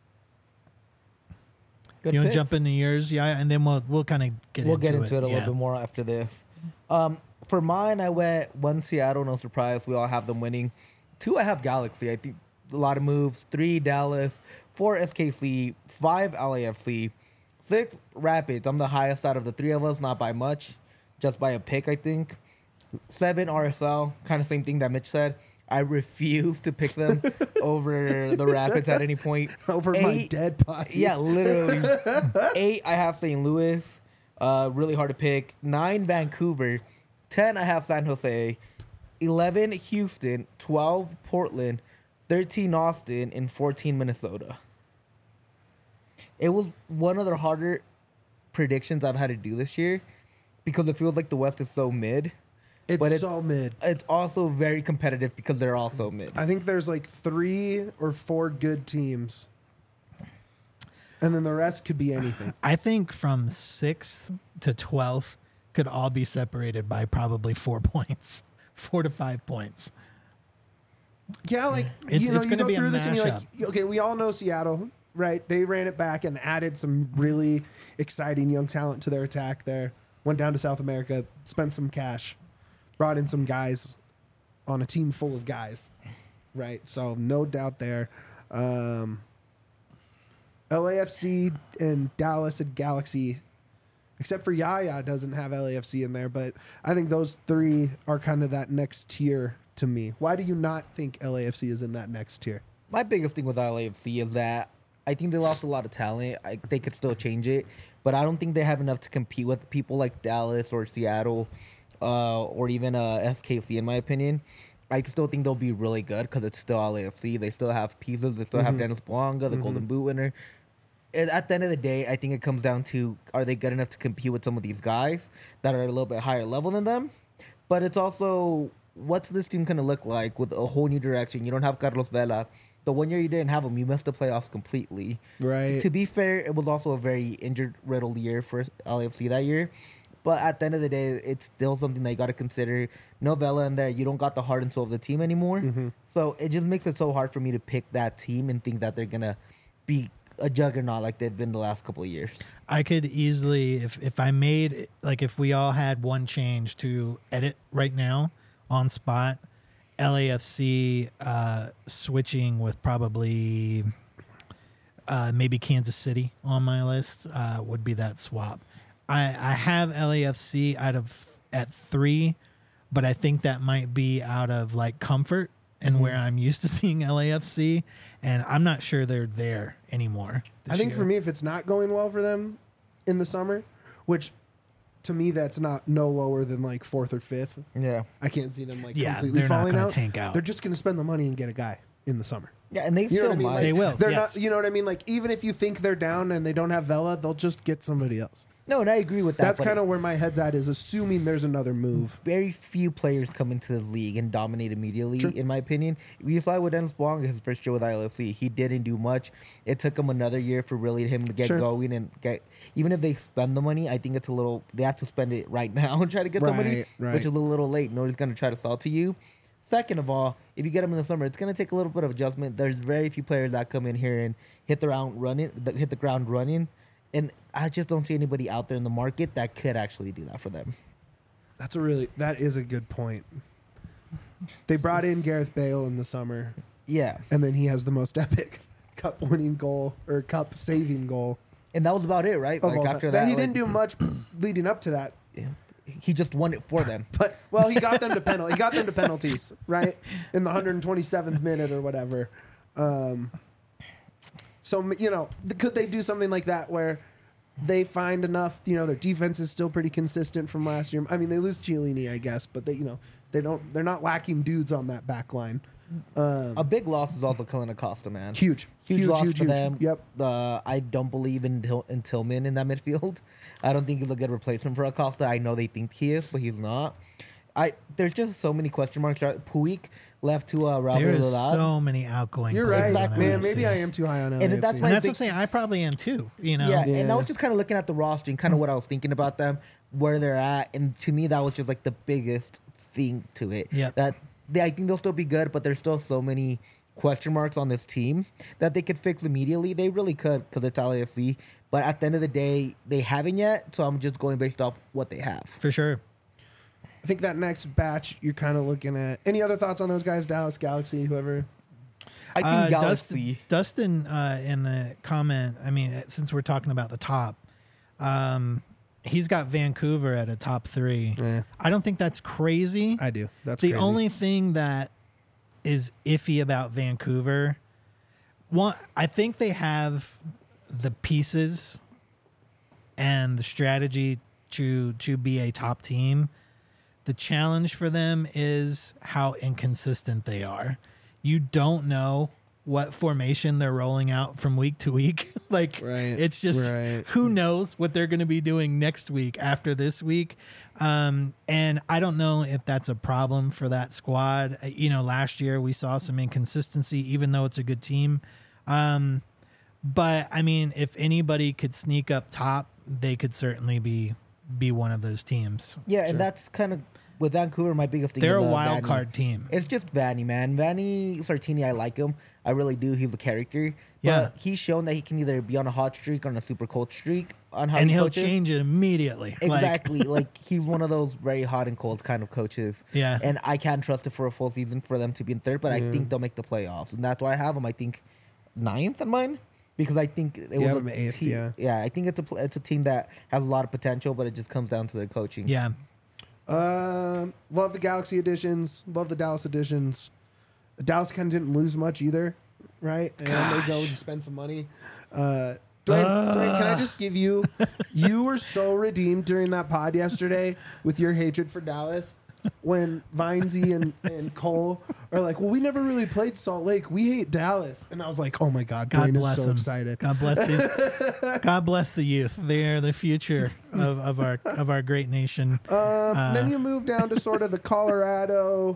C: Good
B: You want to
C: picks.
B: jump into yours? Yeah, and then we'll kind of get
C: We'll
B: into
C: get into it a
B: Yeah.
C: little bit more after this. For mine, I went 1 Seattle, no surprise. We all have them winning. 2, I have Galaxy. I think a lot of moves. 3, Dallas. 4, SKC. 5, LAFC. 6, Rapids. I'm the highest out of the 3 of us, not by much, just by a pick, I think. 7, RSL. Kind of same thing that Mitch said. I refuse to pick them over the Rapids at any point.
A: Over my
C: 8,
A: dead body.
C: Yeah, literally. 8, I have St. Louis. Really hard to pick. 9, Vancouver. 10, I have San Jose. 11, Houston. 12, Portland. 13, Austin. And 14, Minnesota. It was one of the harder predictions I've had to do this year because it feels like the West is so mid.
A: It's
C: But
A: so mid.
C: It's also very competitive because they're also mid.
A: I think there's like 3 or 4 good teams. And then the rest could be anything.
B: I think from 6th to 12th could all be separated by probably 4 points, 4 to 5 points.
A: Yeah, like
B: It's
A: you
B: gonna
A: go
B: be a
A: through this and you're like,
B: mashup.
A: okay, we all know Seattle, right? They ran it back and added some really exciting young talent to their attack there. Went down to South America, spent some cash, brought in some guys on a team full of guys, right? So no doubt there. LAFC and Dallas and Galaxy, except for Yaya doesn't have LAFC in there, but I think those 3 are kind of that next tier to me. Why do you not think LAFC is in that next tier?
C: My biggest thing with LAFC is that I think they lost a lot of talent. They could still change it, but I don't think they have enough to compete with people like Dallas or Seattle or even SKC, in my opinion. I still think they'll be really good because it's still LAFC. They still have pieces. They still have Dennis Bouanga, the Golden Boot winner. And at the end of the day, I think it comes down to, are they good enough to compete with some of these guys that are a little bit higher level than them? But it's also, what's this team going to look like with a whole new direction? You don't have Carlos Vela. The 1 year you didn't have him, you missed the playoffs completely.
A: Right.
C: To be fair, it was also a very injured-riddled year for LAFC that year. But at the end of the day, it's still something that you got to consider. No Vela in there. You don't got the heart and soul of the team anymore. So it just makes it so hard for me to pick that team and think that they're going to be a juggernaut like they've been the last couple of years.
B: I could easily, if I made, like, if we all had one change to edit right now on spot, LAFC switching with probably maybe Kansas City on my list would be that swap. I have LAFC at 3, but I think that might be out of like comfort and where I'm used to seeing LAFC, and I'm not sure they're there anymore.
A: I think for me, if it's not going well for them in the summer, which to me that's not no lower than like 4th or 5th.
C: Yeah.
A: I can't see them like
B: Yeah,
A: completely
B: they're not
A: falling
B: gonna
A: out.
B: tank out.
A: They're just going to spend the money and get a guy in the summer.
C: Yeah, and they
A: You know
C: still
A: what I mean?
C: might.
A: Like,
B: They will,
A: They're
B: yes.
A: not. You know what I mean? Like even if you think they're down and they don't have Vela, they'll just get somebody else.
C: No, and I agree with that.
A: That's
C: but
A: kind of where my head's at, is assuming there's another move.
C: very few players come into the league and dominate immediately, in my opinion. We saw it with Dennis Blanc, his first year with ILFC. He didn't do much. It took him another year for really him to get going and get. Even if they spend the money, I think it's a little. They have to spend it right now and try to get somebody,
A: Right.
C: which is a little late. Nobody's going to try to sell to you. Second of all, if you get them in the summer, it's going to take a little bit of adjustment. There's very few players that come in here and hit the ground running. And I just don't see anybody out there in the market that could actually do that for them.
A: That is a good point. They brought in Gareth Bale in the summer,
C: Yeah.
A: and then he has the most epic cup-winning goal or cup-saving goal
C: And that was about it, right?
A: of
C: Like
A: all time.
C: after
A: But
C: that,
A: he didn't do much leading up to that.
C: He just won it for them.
A: But well, he got them to penalties, right, in the 127th minute or whatever. So could they do something like that where they find enough? Their defense is still pretty consistent from last year. I mean, they lose Chiellini, I guess, but they're not lacking dudes on that back line.
C: A big loss is also Kellyn Acosta, man.
A: Huge
C: loss for
A: huge.
C: them.
A: Yep.
C: I don't believe in Tillman in that midfield. I don't think he's a good replacement for Acosta. I know they think he is, but he's not. There's just so many question marks. Puig left to Raul
B: There is
C: Lilad.
B: so many outgoing.
A: You're
B: players
A: right,
B: on
A: man.
B: LAFC.
A: Maybe I am too high on LAFC.
C: And that's
B: And
C: my
B: that's
C: big-
B: what I'm saying. I probably am too.
C: Yeah, and I was just kind of looking at the roster and kind of what I was thinking about them, where they're at, and to me that was just like the biggest thing to it.
B: Yeah.
C: I think they'll still be good, but there's still so many question marks on this team that they could fix immediately. They really could because it's LAFC. But at the end of the day, they haven't yet, so I'm just going based off what they have.
B: For sure.
A: I think that next batch you're kind of looking at. Any other thoughts on those guys? Dallas, Galaxy, whoever.
C: I think Galaxy.
B: Dustin in the comment, I mean, since we're talking about the top, he's got Vancouver at a top 3.
A: Yeah.
B: I don't think that's crazy.
A: I do. That's
B: the
A: crazy.
B: only thing that is iffy about Vancouver, I think they have the pieces and the strategy to be a top team. The challenge for them is how inconsistent they are. You don't know what formation they're rolling out from week to week. It's just who knows what they're going to be doing next week after this week. And I don't know if that's a problem for that squad. Last year we saw some inconsistency, even though it's a good team. But I mean, if anybody could sneak up top, they could certainly be one of those teams.
C: Yeah, and that's kind of with Vancouver. My biggest thing.
B: They're
C: is,
B: a wild
C: Vanny.
B: card team.
C: It's just Vanny, man. Vanny Sartini, I like him. I really do. He's a character.
B: Yeah.
C: But he's shown that he can either be on a hot streak or on a super cold streak on how
B: And
C: he
B: he'll
C: coaches.
B: change it immediately.
C: Exactly. Like he's one of those very hot and cold kind of coaches.
B: Yeah.
C: And I can't trust it for a full season for them to be in third, but I think they'll make the playoffs. And that's why I have them, I think, 9th on mine. Because I think it was
A: have
C: a
A: them 8th,
C: team.
A: yeah.
C: I think it's a team that has a lot of potential, but it just comes down to their coaching.
B: Yeah.
A: Love the Galaxy editions. Love the Dallas editions. Dallas kind of didn't lose much either, right? And they go and spend some money. Dwayne, can I just give you? You were so redeemed during that pod yesterday with your hatred for Dallas. When Vinesy and Cole are like, well, we never really played Salt Lake. We hate Dallas. And I was like, oh my God,
B: God
A: Dwayne
B: bless
A: is so
B: him.
A: excited.
B: God bless these. God bless the youth. They are the future of our great nation.
A: Then you move down to sort of the Colorado,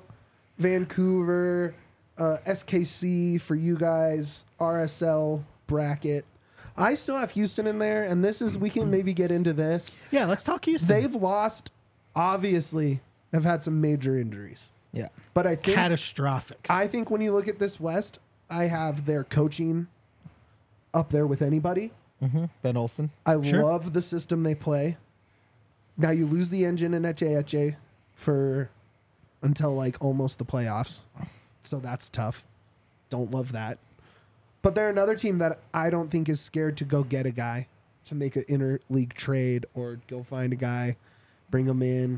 A: Vancouver, SKC for you guys, RSL bracket. I still have Houston in there, and this is we can maybe get into this.
B: Yeah, let's talk Houston.
A: They've lost, obviously, have had some major injuries.
C: Yeah.
A: But I think
B: catastrophic.
A: I think when you look at this West, I have their coaching up there with anybody.
C: Ben Olsen.
A: I
B: Sure.
A: love the system they play. Now you lose the engine in Eche for until like almost the playoffs. So that's tough. Don't love that. But they're another team that I don't think is scared to go get a guy to make an interleague trade or go find a guy, bring him in.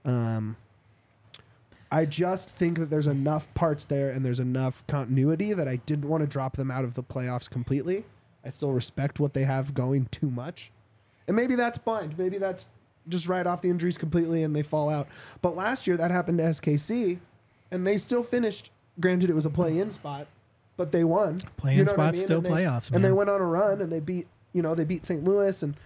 A: I just think that there's enough parts there and there's enough continuity that I didn't want to drop them out of the playoffs completely. I still respect what they have going too much. And maybe that's blind. Maybe that's just write off the injuries completely and they fall out. But last year that happened to SKC and they still finished. Granted, it was a play-in spot, but they won.
B: Play-in
A: You know what I
B: spots
A: mean?
B: still
A: And they-
B: playoffs,
A: And they
B: man.
A: went on a run and they beat St. Louis and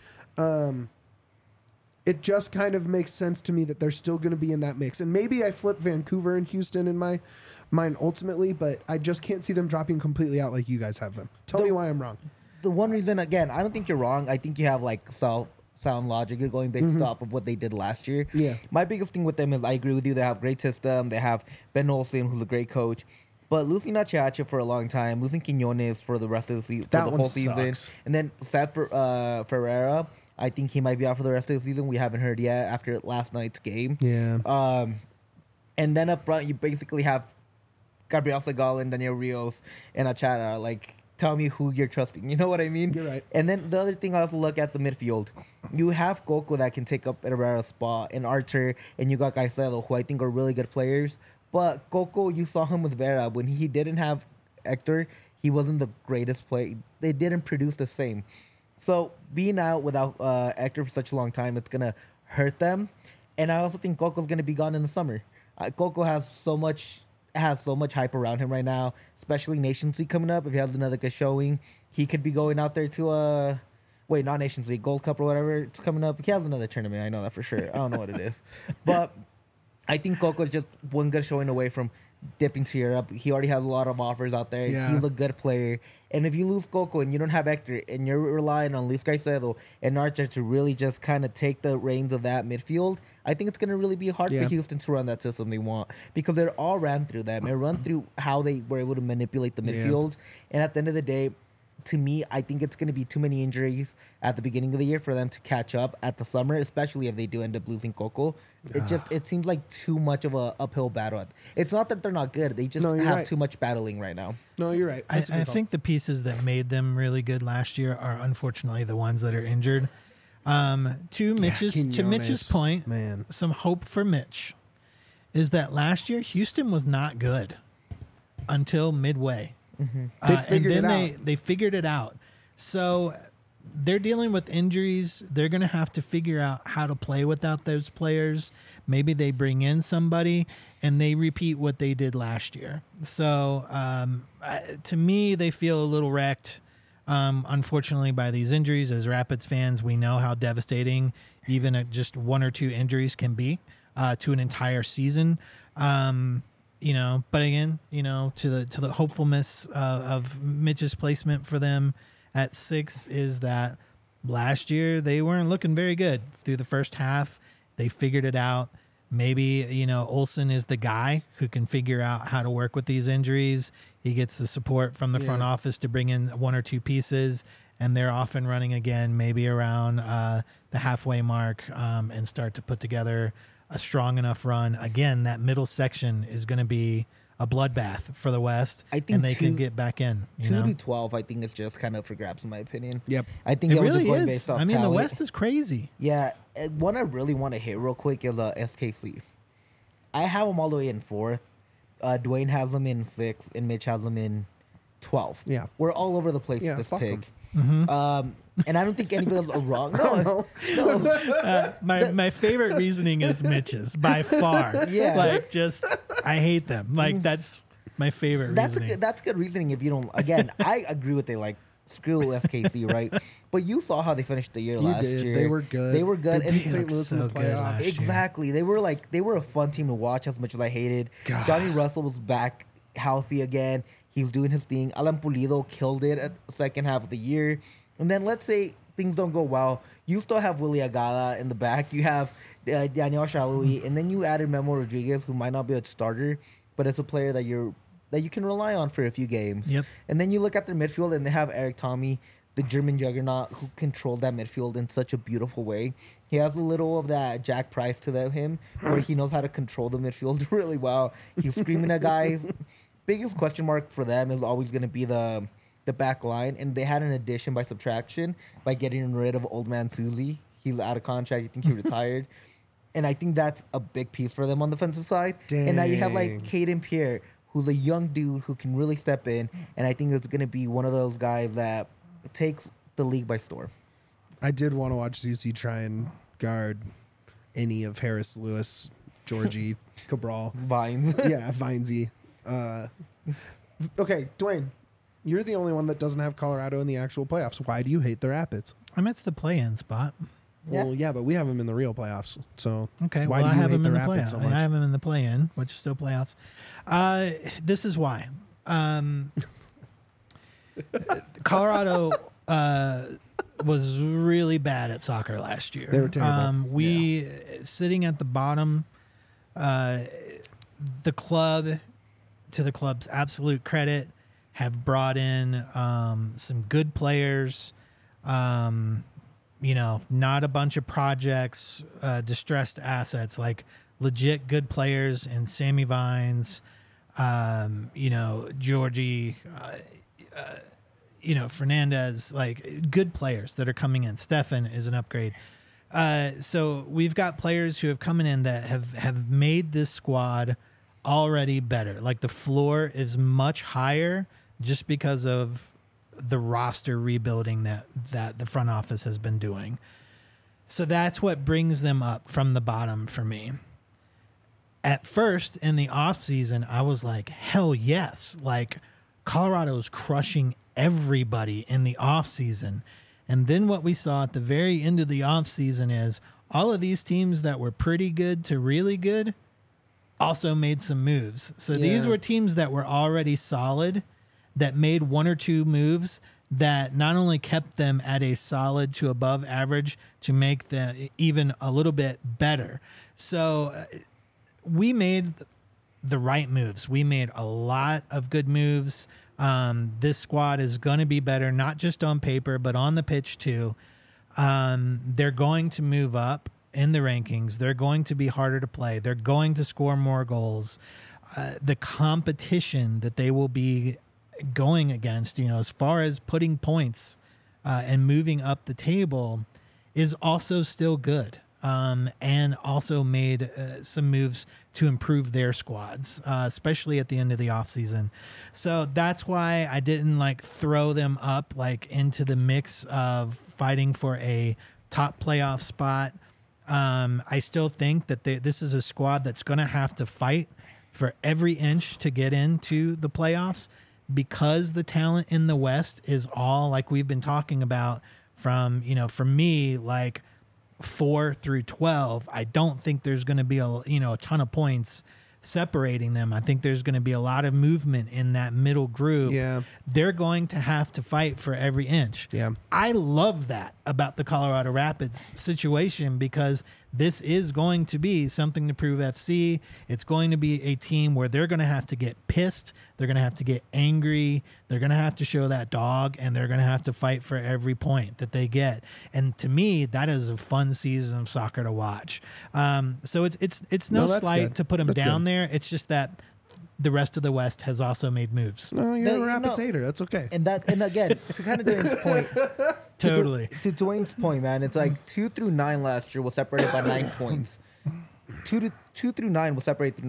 A: it just kind of makes sense to me that they're still going to be in that mix. And maybe I flip Vancouver and Houston in my mind ultimately, but I just can't see them dropping completely out like you guys have them. Tell me why I'm wrong.
C: The one reason, again, I don't think you're wrong. I think you have like sound logic. You're going based off of what they did last year.
A: Yeah.
C: My biggest thing with them is I agree with you. They have a great system. They have Ben Olsen, who's a great coach. But losing Nachiache for a long time, losing Quinones for the rest of the season,
A: That
C: for the
A: one
C: whole season,
A: sucks.
C: and then Seth Ferreira, I think he might be out for the rest of the season. We haven't heard yet after last night's game.
A: Yeah.
C: And then up front, you basically have Gabriel Segal, Daniel Rios, and Achara. Like, tell me who you're trusting. You know what I mean?
A: You're right.
C: And then the other thing, I also look at the midfield. You have Coco that can take up Herrera's spot, and Archer, and you got Caicedo, who I think are really good players. But Coco, you saw him with Vera. When he didn't have Hector, he wasn't the greatest player. They didn't produce the same. So being out without Hector for such a long time, it's going to hurt them. And I also think Coco's going to be gone in the summer. Coco has so much hype around him right now, especially Nations League coming up. If he has another good showing, he could be going out there to not Nations League, Gold Cup or whatever. It's coming up. He has another tournament. I know that for sure. I don't know what it is. But I think Coco is just one good showing away from dipping to Europe. He already has a lot of offers out there.
A: Yeah.
C: He's a good player. And if you lose Coco and you don't have Hector and you're relying on Luis Caicedo and Archer to really just kind of take the reins of that midfield, I think it's going to really be hard
A: Yeah.
C: for Houston to run that system they want because they're all ran through them. It run through how they were able to manipulate the midfield. And at the end of the day, to me, I think it's going to be too many injuries at the beginning of the year for them to catch up at the summer, especially if they do end up losing Coco. It seems like too much of a uphill battle. It's not that they're not good; they just
A: No, you're
C: have
A: right.
C: too much battling right now.
A: No, you're right.
B: I
A: That's a good call.
B: think the pieces that made them really good last year are unfortunately the ones that are injured. To Mitch's
A: Quinones,
B: point,
A: man.
B: some hope for Mitch is that last year Houston was not good until midway.
A: They figured
B: and then
A: it out.
B: they figured it out. So they're dealing with injuries. They're going to have to figure out how to play without those players. Maybe they bring in somebody and they repeat what they did last year. So to me, they feel a little wrecked, unfortunately, by these injuries. As Rapids fans, we know how devastating even just one or two injuries can be to an entire season. But again, to the hopefulness of Mitch's placement for them at 6 is that last year they weren't looking very good through the first half. They figured it out. Maybe, Olsen is the guy who can figure out how to work with these injuries. He gets the support from the front office to bring in one or two pieces, and they're off and running again, maybe around the halfway mark, and start to put together a strong enough run. Again, that middle section is going to be a bloodbath for the West,
C: I think
B: and they can get back in.
C: 2 to 12, I think it's just kind of for grabs, in my opinion.
A: Yep.
C: I think
B: It
C: was
B: really
C: just going
B: is.
C: based off
B: I mean, the
C: talent.
B: West is crazy.
C: Yeah, one I really want to hit real quick is SKC. I have them all the way in 4th. Dwayne has them in 6th, and Mitch has them in 12th.
A: Yeah.
C: We're all over the place
A: Yeah,
C: with this
A: fuck 'em.
C: pick. And I don't think anybody else are wrong. No,
A: No.
B: My favorite reasoning is Mitch's by far.
C: Yeah.
B: I hate them. That's my favorite reasoning.
C: that's good reasoning if you don't. Again, I agree with screw SKC, right? But you saw how they finished the year last
A: did.
C: year.
A: They were good.
C: They were good.
A: They
C: And
A: beat St.
B: looked
A: Louis in the
B: so good
A: playoffs.
B: last year.
C: exactly. They were a fun team to watch as much as I hated.
A: God.
C: Johnny Russell was back healthy again. He's doing his thing. Alan Pulido killed it at the second half of the year. And then let's say things don't go well. You still have Willie Agala in the back. You have Daniel Shalhoub, and then you added Memo Rodriguez, who might not be a starter, but it's a player that you can rely on for a few games.
B: Yep.
C: And then you look at their midfield, and they have Eric Tommy, the German juggernaut, who controlled that midfield in such a beautiful way. He has a little of that Jack Price to him, where he knows how to control the midfield really well. He's screaming at guys. Biggest question mark for them is always going to be the back line, and they had an addition by subtraction by getting rid of old man Susie. He's out of contract. I think he retired. And I think that's a big piece for them on the defensive side. And now you have like Caden Pierre, who's a young dude who can really step in, and I think it's going to be one of those guys that takes the league by storm.
A: I did want to watch Zusi try and guard any of Harris, Lewis, Georgie, Cabral.
C: Vines.
A: Yeah, Vinesy. Okay, Dwayne, you're the only one that doesn't have Colorado in the actual playoffs. Why do you hate the Rapids?
B: I'm at the play-in spot.
A: Well, yeah, but we have them in the real playoffs. So
B: Okay,
A: why
B: well,
A: do
B: I
A: you
B: have
A: hate
B: them
A: the
B: in the
A: Rapids
B: play-in.
A: so much?
B: I have them in the play-in, which is still playoffs. This is why. Colorado was really bad at soccer last year.
A: They were terrible.
B: Sitting at the bottom, the club, to the club's absolute credit, have brought in some good players. Not a bunch of projects, distressed assets, like legit good players and Sammy Vines, Georgie, Fernandez, like good players that are coming in. Stefan is an upgrade. So we've got players who have come in that have made this squad already better. Like the floor is much higher just because of the roster rebuilding that the front office has been doing. So that's what brings them up from the bottom for me. At first in the offseason, I was like, hell yes. Like Colorado's crushing everybody in the offseason. And then what we saw at the very end of the offseason is all of these teams that were pretty good to really good also made some moves. So these were teams that were already solid that made one or two moves that not only kept them at a solid to above average to make them even a little bit better. So we made the right moves. We made a lot of good moves. This squad is going to be better, not just on paper, but on the pitch too. They're going to move up in the rankings. They're going to be harder to play. They're going to score more goals. The competition that they will be going against, as far as putting points and moving up the table is also still good. And also made some moves to improve their squads, especially at the end of the offseason. So that's why I didn't throw them up into the mix of fighting for a top playoff spot. I still think that this is a squad that's going to have to fight for every inch to get into the playoffs, because the talent in the West is all like we've been talking about from, for me, 4 through 12. I don't think there's going to be a ton of points separating them. I think there's going to be a lot of movement in that middle group.
A: Yeah.
B: They're going to have to fight for every inch.
A: Yeah.
B: I love that about the Colorado Rapids situation, because this is going to be something to prove FC. It's going to be a team where they're going to have to get pissed. They're going to have to get angry. They're going to have to show that dog, and they're going to have to fight for every point that they get. And to me, that is a fun season of soccer to watch. So it's no slight
A: good.
B: to put them
A: That's
B: down
A: good.
B: there. It's just that the rest of the West has also made moves.
A: No, you're a Rapids hater. That's okay.
C: And again, to kind of Dwayne's point.
B: Totally.
C: To Dwayne's point, man, it's 2 through 9 last year was separated by 9 points. 2 through 9 was separated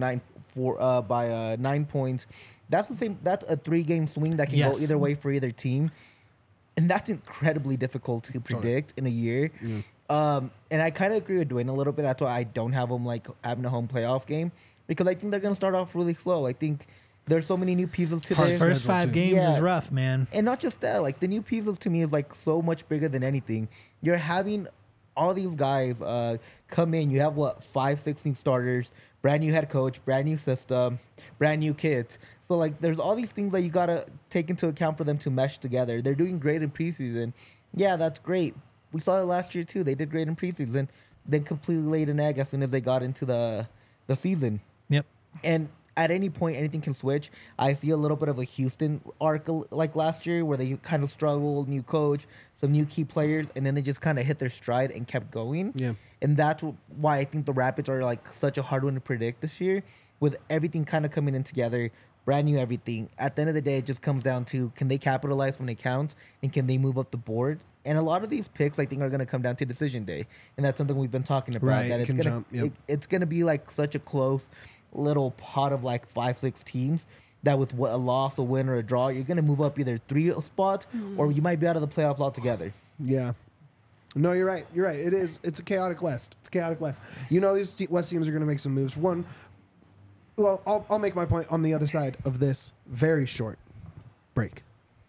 C: by 9 points. That's the same. That's a 3-game swing that can go either way for either team, and that's incredibly difficult to predict in a year. And I kind of agree with Dwayne a little bit. That's why I don't have them having a home playoff game, because I think they're going to start off really slow. I think there's so many new pieces to their
B: First 5 games is rough, man.
C: And not just that, the new pieces to me is so much bigger than anything. You're having all these guys come in. You have 5, 6 new starters, brand new head coach, brand new system, brand new kids. So there's all these things that you gotta take into account for them to mesh together. They're doing great in preseason, Yeah, that's great. We saw it last year too. They did great in preseason, then completely laid an egg as soon as they got into the season.
B: Yep.
C: And at any point, anything can switch. I see a little bit of a Houston arc like last year, where they kind of struggled, new coach, some new key players, and then they just kind of hit their stride and kept going.
A: Yeah.
C: And that's why I think the Rapids are like such a hard one to predict this year, with everything kind of coming in together, brand new everything. At the end of the day, it just comes down to, can they capitalize when it counts, and can they move up the board? And a lot of these picks, I think, are going to come down to decision day, and that's something we've been talking about.
A: Right,
C: That
A: it
C: it's
A: can
C: gonna
A: jump, yep.
C: it's gonna be like such a close little pot of like 5-6 teams. That with a loss, a win, or a draw, you're gonna move up either 3 spots, or you might be out of the playoffs altogether.
A: Yeah. No, you're right. You're right. It is. It's a chaotic West. It's a chaotic West. You know, these West teams are going to make some moves. One, well, I'll make my point on the other side of this very short break.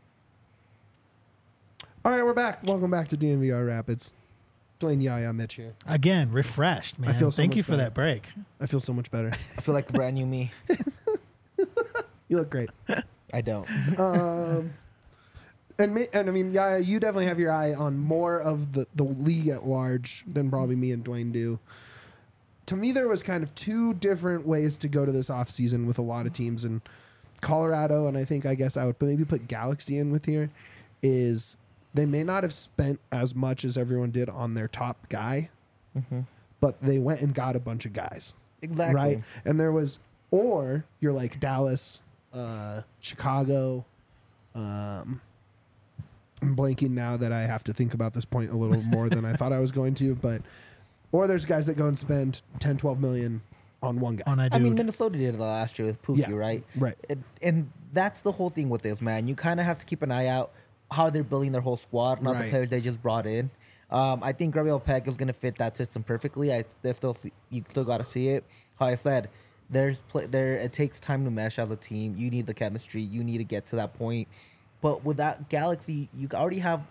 A: All right, we're back. Welcome back to DNVR Rapids. Dwayne Yaya Mitch here.
B: Again, refreshed, man.
A: feel so
B: Thank
A: much
B: you for
A: better.
B: that break.
A: I feel so much better.
C: I feel like a brand new me.
A: You look great.
C: I don't.
A: And I mean, Yaya, you definitely have your eye on more of the league at large than probably me and Dwayne do. To me, there was kind of 2 different ways to go to this offseason with a lot of teams. And Colorado, and I guess I would maybe put Galaxy in with here, is they may not have spent as much as everyone did on their top guy, but they went and got a bunch of guys.
C: Exactly.
A: Right? And there was, or you're like Dallas, Chicago, I'm blanking now that I have to think about this point a little more than I thought I was going to, but or there's guys that go and spend 10, 12 million on one guy.
B: On a dude.
C: I mean, Minnesota did it last year with Pookie,
A: Yeah,
C: right?
A: right.
C: And that's the whole thing with this, man. You kind of have to keep an eye out how they're building their whole squad, not
A: Right.
C: the players they just brought in. I think Gabriel Peck is going to fit that system perfectly. You still got to see it. How I said, it takes time to mesh as a team. You need the chemistry. You need to get to that point. But with that Galaxy, you already have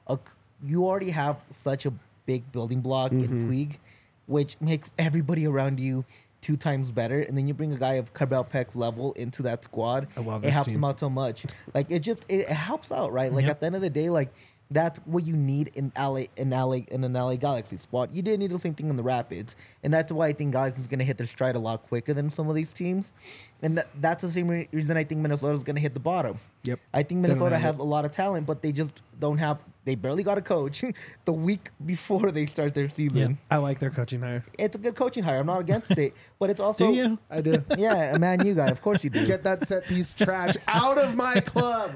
C: such a big building block in Puig, which makes everybody around you 2 times better. And then you bring a guy of Gabriel Peck's level into that squad.
A: I love
C: it
A: this
C: helps
A: team.
C: him out so much. Like it helps out, right? Like
B: Yep.
C: at the end of the day, like that's what you need in an LA Galaxy squad. You didn't need the same thing in the Rapids, and that's why I think Galaxy's going to hit their stride a lot quicker than some of these teams. And that's the same reason I think Minnesota's going to hit the bottom.
A: Yep.
C: I think
A: They don't
C: Minnesota
A: have
C: has
A: it.
C: a lot of talent, but they just don't have. They barely got a coach the week before they start their season.
B: Yep.
A: I like their coaching hire.
C: It's a good coaching hire. I'm not against it, but it's also
B: Do you?
A: I do.
C: Yeah, a Man U guy. Of course you do.
A: Get that set piece trash out of my club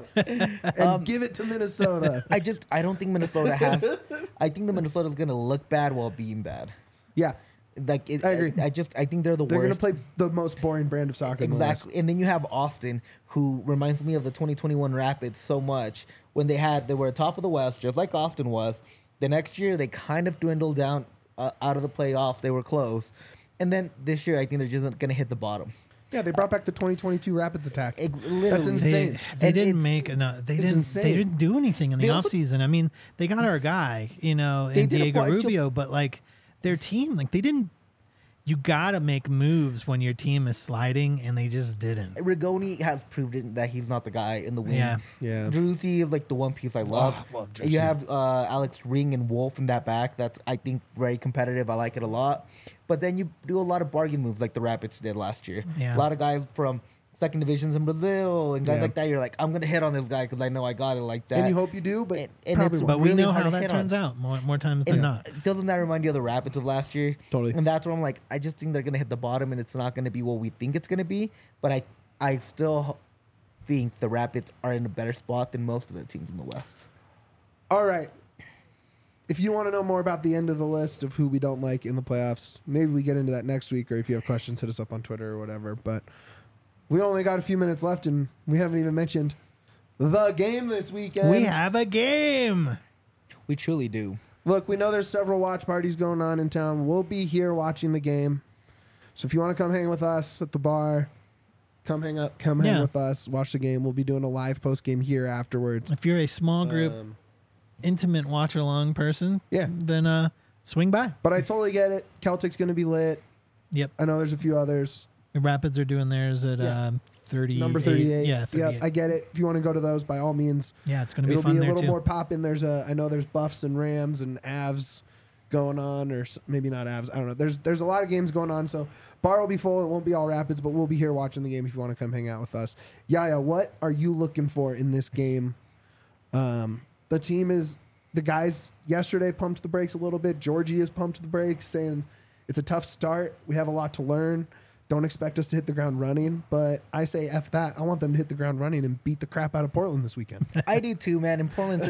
A: and give it to Minnesota.
C: I don't think Minnesota has. I think the Minnesota's gonna look bad while being bad.
A: Yeah.
C: Like
A: I agree.
C: I think they're the
A: They're going to
C: worst.
A: play the most boring brand of soccer in the West.
C: Exactly. And then you have Austin, who reminds me of the 2021 Rapids so much when they were top of the West, just like Austin was. The next year, they kind of dwindled down out of the playoffs. They were close. And then this year, I think they're just going to hit the bottom.
A: Yeah, they brought back the 2022 Rapids attack.
C: Literally.
A: That's insane.
B: They
C: And
B: didn't
C: it's-
B: make enough. They
A: it's
B: didn't.
A: insane.
B: They didn't do anything in the
C: They also-
B: offseason. I mean, they got our guy, in
C: They did a
B: Diego
C: bunch of-
B: Rubio, but like their team, like they didn't. You gotta make moves when your team is sliding, and they just didn't.
C: Rigoni has proved that he's not the guy in the wing.
B: Yeah.
A: Yeah.
C: Druzy is like the one piece I love.
A: I love
C: And you
A: Druzy.
C: have Alex Ring and Wolf in that back. That's, I think, very competitive. I like it a lot. But then you do a lot of bargain moves like the Rapids did last year.
B: Yeah.
C: A lot of guys from second divisions in Brazil and guys
A: Yeah.
C: like that. You're like, I'm going to hit on this guy because I know I got it like that.
A: And you hope you do, but
C: And
A: probably
C: it's-
A: won't.
B: But we
C: really
B: know
C: hard
B: how
C: to
B: that
C: hit
B: turns
C: on.
B: out more times than
C: And
B: not.
C: doesn't that remind you of the Rapids of last year?
A: Totally.
C: And that's where I'm like, I just think they're going to hit the bottom and it's not going to be what we think it's going to be. But I still think the Rapids are in a better spot than most of the teams in the West.
A: All right. If you want to know more about the end of the list of who we don't like in the playoffs, maybe we get into that next week, or if you have questions, hit us up on Twitter or whatever. But we only got a few minutes left, and we haven't even mentioned the game this weekend.
B: We have a game.
C: We truly do.
A: Look, we know there's several watch parties going on in town. We'll be here watching the game. So if you want to come hang with us at the bar, come hang
B: Yeah.
A: with us, watch the game. We'll be doing a live post game here afterwards.
B: If you're a small group, intimate watch along person,
A: Yeah.
B: then swing by.
A: But I totally get it. Celtic's going to be lit.
B: Yep.
A: I know there's a few others.
B: The Rapids are doing theirs at
A: Yeah.
B: 38.
A: Number 38.
B: Yeah, 38.
A: Yep, I get it. If you want to go to those, by all means.
B: Yeah, it's going to be
A: It'll
B: fun
A: be a
B: there
A: little
B: too.
A: more popping. I know there's Buffs and Rams and Avs going on, or maybe not Avs. I don't know. There's a lot of games going on, so bar will be full. It won't be all Rapids, but we'll be here watching the game if you want to come hang out with us. Yaya, what are you looking for in this game? The guys yesterday pumped the brakes a little bit. Georgie has pumped the brakes, saying it's a tough start. We have a lot to learn. Don't expect us to hit the ground running, but I say F that. I want them to hit the ground running and beat the crap out of Portland this weekend.
C: I do too, man. And Portland's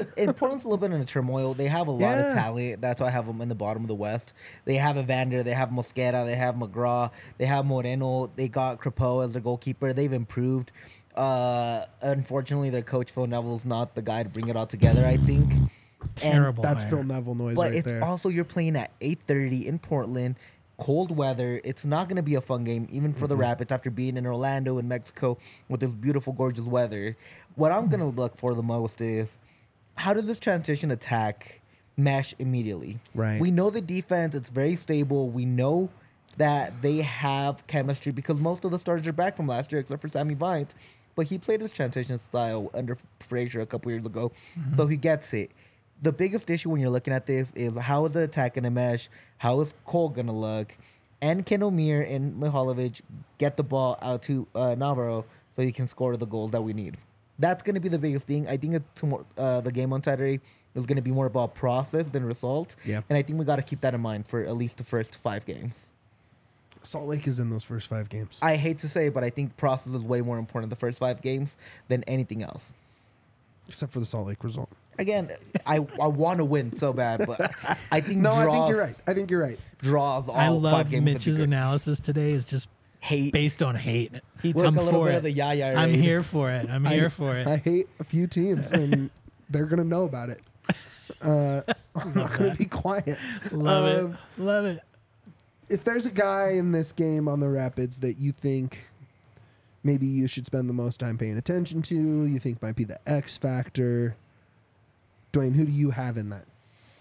C: a little bit in a turmoil. They have a lot of talent. That's why I have them in the bottom of the West. They have Evander. They have Mosquera. They have McGraw. They have Moreno. They got Crepeau as their goalkeeper. They've improved. Unfortunately, their coach Phil Neville's not the guy to bring it all together, I think.
B: Terrible.
A: That's
B: hire.
A: Phil Neville noise
C: But
A: right
C: it's
A: there.
C: also you're playing at 8:30 in Portland, cold weather. It's not going to be a fun game, even for the Rapids after being in Orlando and Mexico with this beautiful, gorgeous weather. What I'm going to look for the most is how does this transition attack mesh immediately?
A: Right.
C: We know the defense; it's very stable. We know that they have chemistry because most of the starters are back from last year, except for Sammy Vines. But he played his transition style under Frazier a couple years ago, so he gets it. The biggest issue when you're looking at this is how is the attack going to mesh? How is Cole going to look? And can Omir and Mihalovic get the ball out to Navarro so he can score the goals that we need? That's going to be the biggest thing. I think the game on Saturday is going to be more about process than result.
A: Yeah.
C: And I think we got to keep that in mind for at least the first 5 games.
A: Salt Lake is in those first 5 games.
C: I hate to say it, but I think process is way more important the first 5 games than anything else.
A: Except for the Salt Lake result.
C: Again, I want to win so bad, but I think
A: No,
C: draws,
A: I think you're right.
C: Draws all
B: I
C: 5
B: love
C: games. would be
B: Mitch's
C: great.
B: analysis today is just
C: Hate.
B: based on hate.
C: He took
B: I'm
C: a little
B: for
C: bit
B: it.
C: of the yaya.
B: I'm
C: raid.
B: here for it. I'm here for it.
A: I hate a few teams, and they're going to know about it. I'm not going to be quiet.
B: Love
A: Um,
B: it. Love it.
A: If there's a guy in this game on the Rapids that you think maybe you should spend the most time paying attention to, you think might be the X factor, Dwayne, who do you have in that?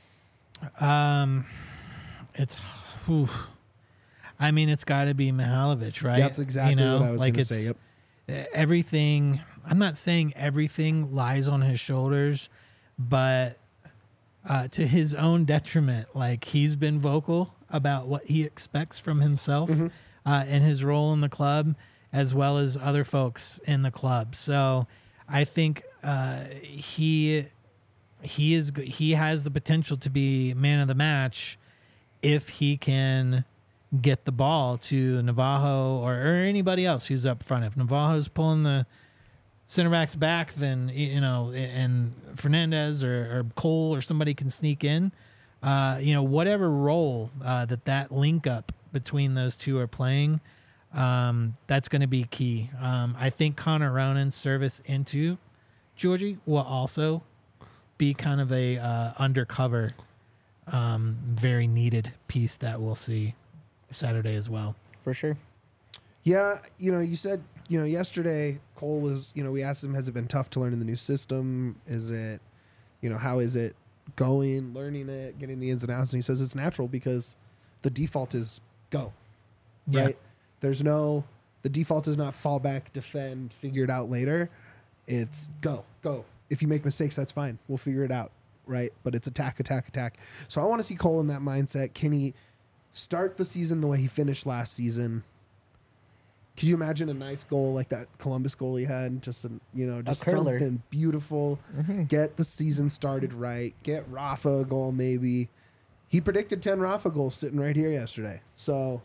B: It's, whew. I mean, it's got to be Mihalovic, right?
A: That's exactly what I was going to say. Yep.
B: Everything. I'm not saying everything lies on his shoulders, but to his own detriment, like he's been vocal about what he expects from himself and his role in the club, as well as other folks in the club. So I think he has the potential to be man of the match if he can get the ball to Navajo or anybody else who's up front. If Navajo's pulling the center backs back, then, you know, and Fernandez or Cole or somebody can sneak in, you know, whatever role that link up between those two are playing, that's going to be key. I think Connor Ronan's service into Georgie will also be kind of a undercover, very needed piece that we'll see Saturday as well.
C: For sure.
A: Yeah, you know, you said, you know, yesterday Cole was, you know, we asked him, has it been tough to learn in the new system? Is it, you know, how is it going, learning it, getting the ins and outs? And he says it's natural because the default is go,
B: Yeah.
A: right? The default is not fall back, defend, figure it out later. It's go. If you make mistakes, that's fine. We'll figure it out, right? But it's attack. So I want to see Cole in that mindset. Can he start the season the way he finished last season? Could you imagine a nice goal like that Columbus goal he had? Just
C: curler.
A: something beautiful. Get the season started right. Get Rafa a goal maybe. He predicted 10 Rafa goals sitting right here yesterday. So,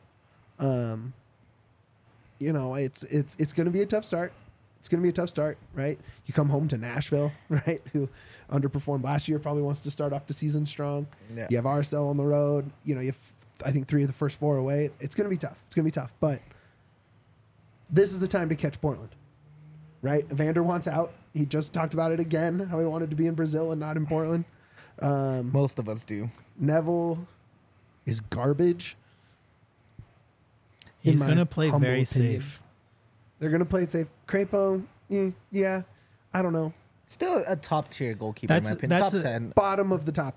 A: you know, it's going to be a tough start. It's going to be a tough start, right? You come home to Nashville, right, who underperformed last year, probably wants to start off the season strong.
C: Yeah.
A: You have RSL on the road. You know, you have, I think, 3 of the first 4 away. It's going to be tough. But this is the time to catch Portland, right? Evander wants out. He just talked about it again, how he wanted to be in Brazil and not in Portland.
C: Most of us do.
A: Neville is garbage.
B: He's
A: my
B: going to play
A: humble
B: very
A: opinion.
B: safe.
A: They're going to play it safe. Crepeau, yeah, I don't know.
C: Still a top tier goalkeeper, in my opinion.
B: That's
C: Top
B: a-
C: 10.
A: Bottom of the top 10.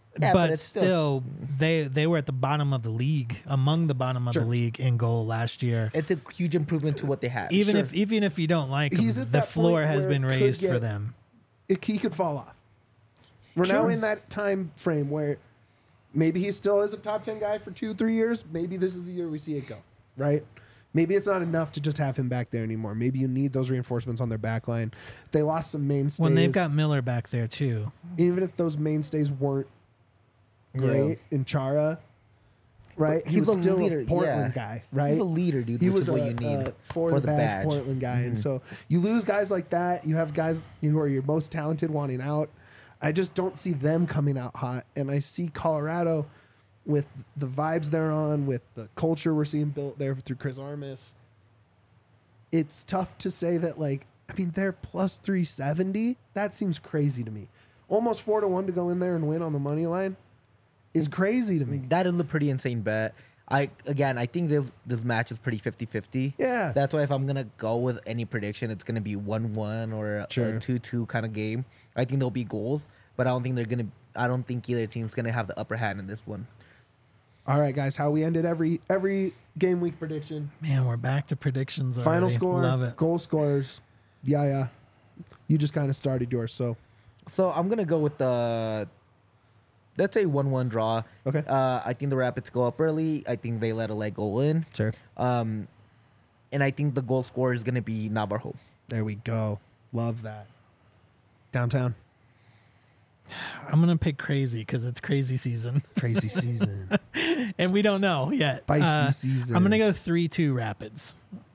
C: Yeah,
B: but
C: it's
B: still, they were at the bottom of the league, among the bottom of
A: Sure.
B: the league in goal last year.
C: It's a huge improvement to what they had.
B: Even
A: Sure.
B: if you don't like
A: He's
B: him,
A: at
B: the
A: that
B: floor
A: point
B: has
A: where
B: been
A: it could
B: raised for
A: get-
B: them.
A: He could fall off. We're now
B: Sure.
A: in that time frame where maybe he still is a top 10 guy for 2-3 years. Maybe this is the year we see it go, right? Maybe it's not enough to just have him back there anymore. Maybe you need those reinforcements on their back line. They lost some mainstays.
B: When they've got Miller back there too.
A: Even if those mainstays weren't great in Chara, right?
C: But
A: He
C: he's
A: was
C: a
A: still
C: leader,
A: a Portland
C: yeah.
A: guy, right?
C: He's a leader, dude,
A: He
C: which
A: was
C: is what you need
A: for the badge Portland guy. And so you lose guys like that. You have guys who are your most talented wanting out. I just don't see them coming out hot. And I see Colorado with the vibes they're on, with the culture we're seeing built there through Chris Armas. It's tough to say that, like, I mean, they're plus 370. That seems crazy to me. Almost 4-1 to go in there and win on the money line is crazy to me.
C: That is a pretty insane bet. I think this match is pretty 50-50.
A: Yeah.
C: That's why if I'm gonna go with any prediction, it's gonna be 1-1 or a
A: Sure.
C: 2-2 kind of game. I think there'll be goals, but I don't think either team's gonna have the upper hand in this one.
A: All right, guys, how we ended every game week prediction.
B: Man, we're back to predictions already.
A: Final score,
B: Love it.
A: goal scorers. Yeah. You just kind of started yours, so
C: So I'm gonna go with the, let's say 1-1 draw.
A: Okay.
C: I think the Rapids go up early. I think they let a leg goal in.
A: sure.
C: And I think the goal scorer is gonna be Navarro.
A: There we go. Love that. Downtown.
B: I'm gonna pick crazy because it's crazy season,
A: Crazy season.
B: and we don't know yet.
A: Spicy season.
B: I'm gonna go 3-2 Rapids.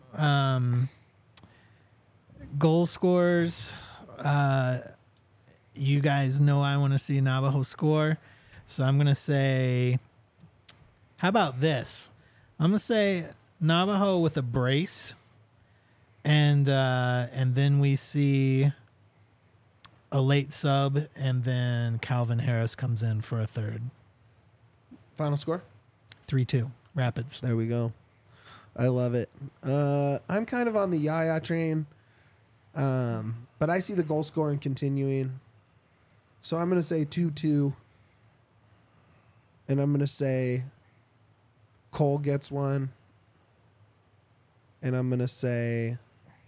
B: Goal scorers. You guys know I want to see Navajo score, so I'm gonna say. How about this? I'm gonna say Navajo with a brace, and then we see a late sub, and then Calvin Harris comes in for a third.
A: Final score?
B: 3-2 Rapids.
A: There we go. I love it. I'm kind of on the Yaya train, but I see the goal scoring continuing. So I'm going to say 2-2, and I'm going to say Cole gets one, and I'm going to say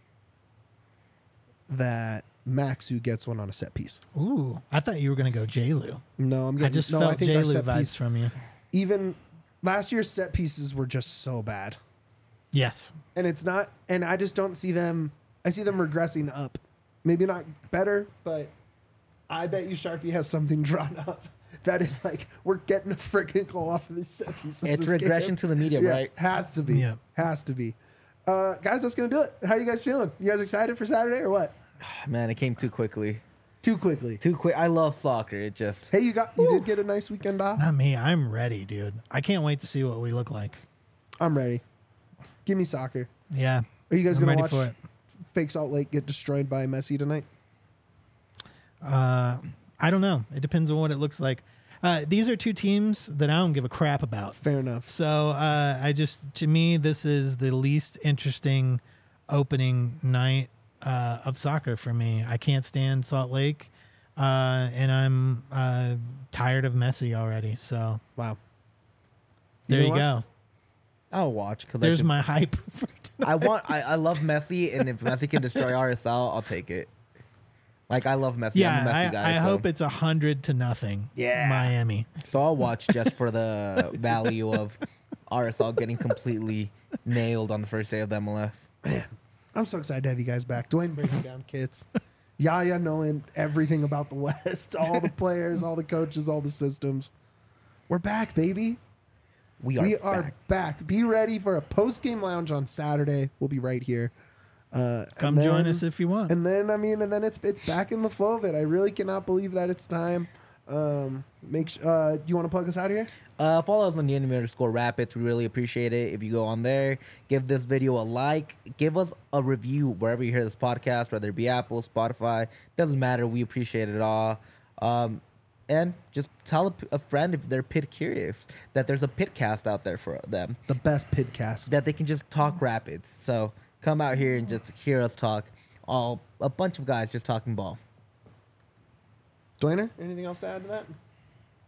A: that Maxu gets one on a set piece.
B: Ooh, I thought you were gonna go J-Lu.
A: No, I'm getting.
B: I just
A: no,
B: felt
A: I think our
B: J-Lu
A: set
B: vibes
A: piece.
B: from you.
A: Even last year's set pieces were just so bad.
B: Yes.
A: And it's not, and I just don't see them. I see them regressing up. Maybe not better, but I bet you Sharpie has something drawn up that is like, we're getting a freaking goal off of these set pieces.
C: It's
A: this
C: regression
A: game.
C: to the medium,
A: Yeah,
C: right?
A: Has to be.
B: Yeah.
A: Has to be. Guys, that's going to do it. How you guys feeling? You guys excited for Saturday or what?
C: Man, it came too quickly.
A: Too quickly.
C: Too quick. I love soccer. It just.
A: Hey, you did get a nice weekend off?
B: Not me. I'm ready, dude. I can't wait to see what we look like.
A: I'm ready. Give me soccer.
B: Yeah.
A: Are you guys
B: I'm
A: going to
B: ready
A: watch
B: for it.
A: Fake Salt Lake get destroyed by Messi tonight?
B: I don't know. It depends on what it looks like. These are two teams that I don't give a crap about.
A: Fair enough.
B: So to me, this is the least interesting opening night of soccer for me. I can't stand Salt Lake, and I'm tired of Messi already. So
A: Wow.
B: there you
A: gonna
B: go.
A: watch?
C: I'll watch because
B: There's my hype. For
C: I love Messi, and if Messi can destroy RSL, I'll take it. Like I love Messi.
B: yeah,
C: I'm a Messi guy.
B: I
C: so.
B: hope it's 100-0.
A: Yeah.
B: Miami.
C: So I'll watch just for the value of RSL getting completely nailed on the first day of the MLS.
A: I'm so excited to have you guys back. Dwayne breaking down kits. Yaya knowing everything about the West, all the players, all the coaches, all the systems. We're back, baby.
C: We are
A: back. Be ready for a post-game lounge on Saturday. We'll be right here.
B: Come join us if you want.
A: And then it's back in the flow of it. I really cannot believe that it's time. You want to plug us out here?
C: Follow us on the _Rapids. We really appreciate it. If you go on there, give this video a like, give us a review wherever you hear this podcast, whether it be Apple, Spotify, doesn't matter. We appreciate it all. And just tell a friend if they're pit curious that there's a pitcast out there for them,
A: The best pitcast.
C: that they can just talk Rapids. So come out here and just hear us talk. A bunch of guys just talking ball.
A: Dwayner, anything else to add to that?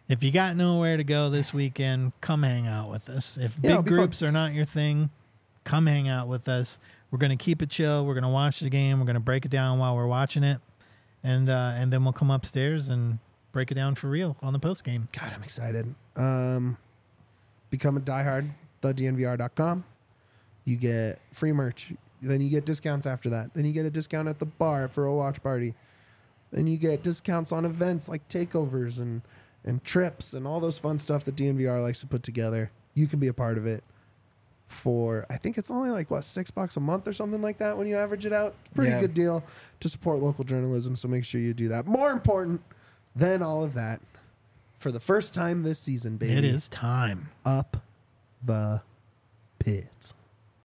B: if you got nowhere to go this weekend, come hang out with us. If
A: Yeah, it'll
B: big
A: be fun.
B: groups are not your thing, come hang out with us. We're going to keep it chill. We're going to watch the game. We're going to break it down while we're watching it. And then we'll come upstairs and break it down for real on the post game.
A: God, I'm excited. Become a diehard, thednvr.com. You get free merch. Then you get discounts after that. Then you get a discount at the bar for a watch party. Then you get discounts on events like takeovers and trips and all those fun stuff that DNVR likes to put together. You can be a part of it for, I think it's only like, what, $6 a month or something like that when you average it out. Pretty good deal to support local journalism, so make sure you do that. More important than all of that, for the first time this season, baby.
B: It is time.
A: Up the pits.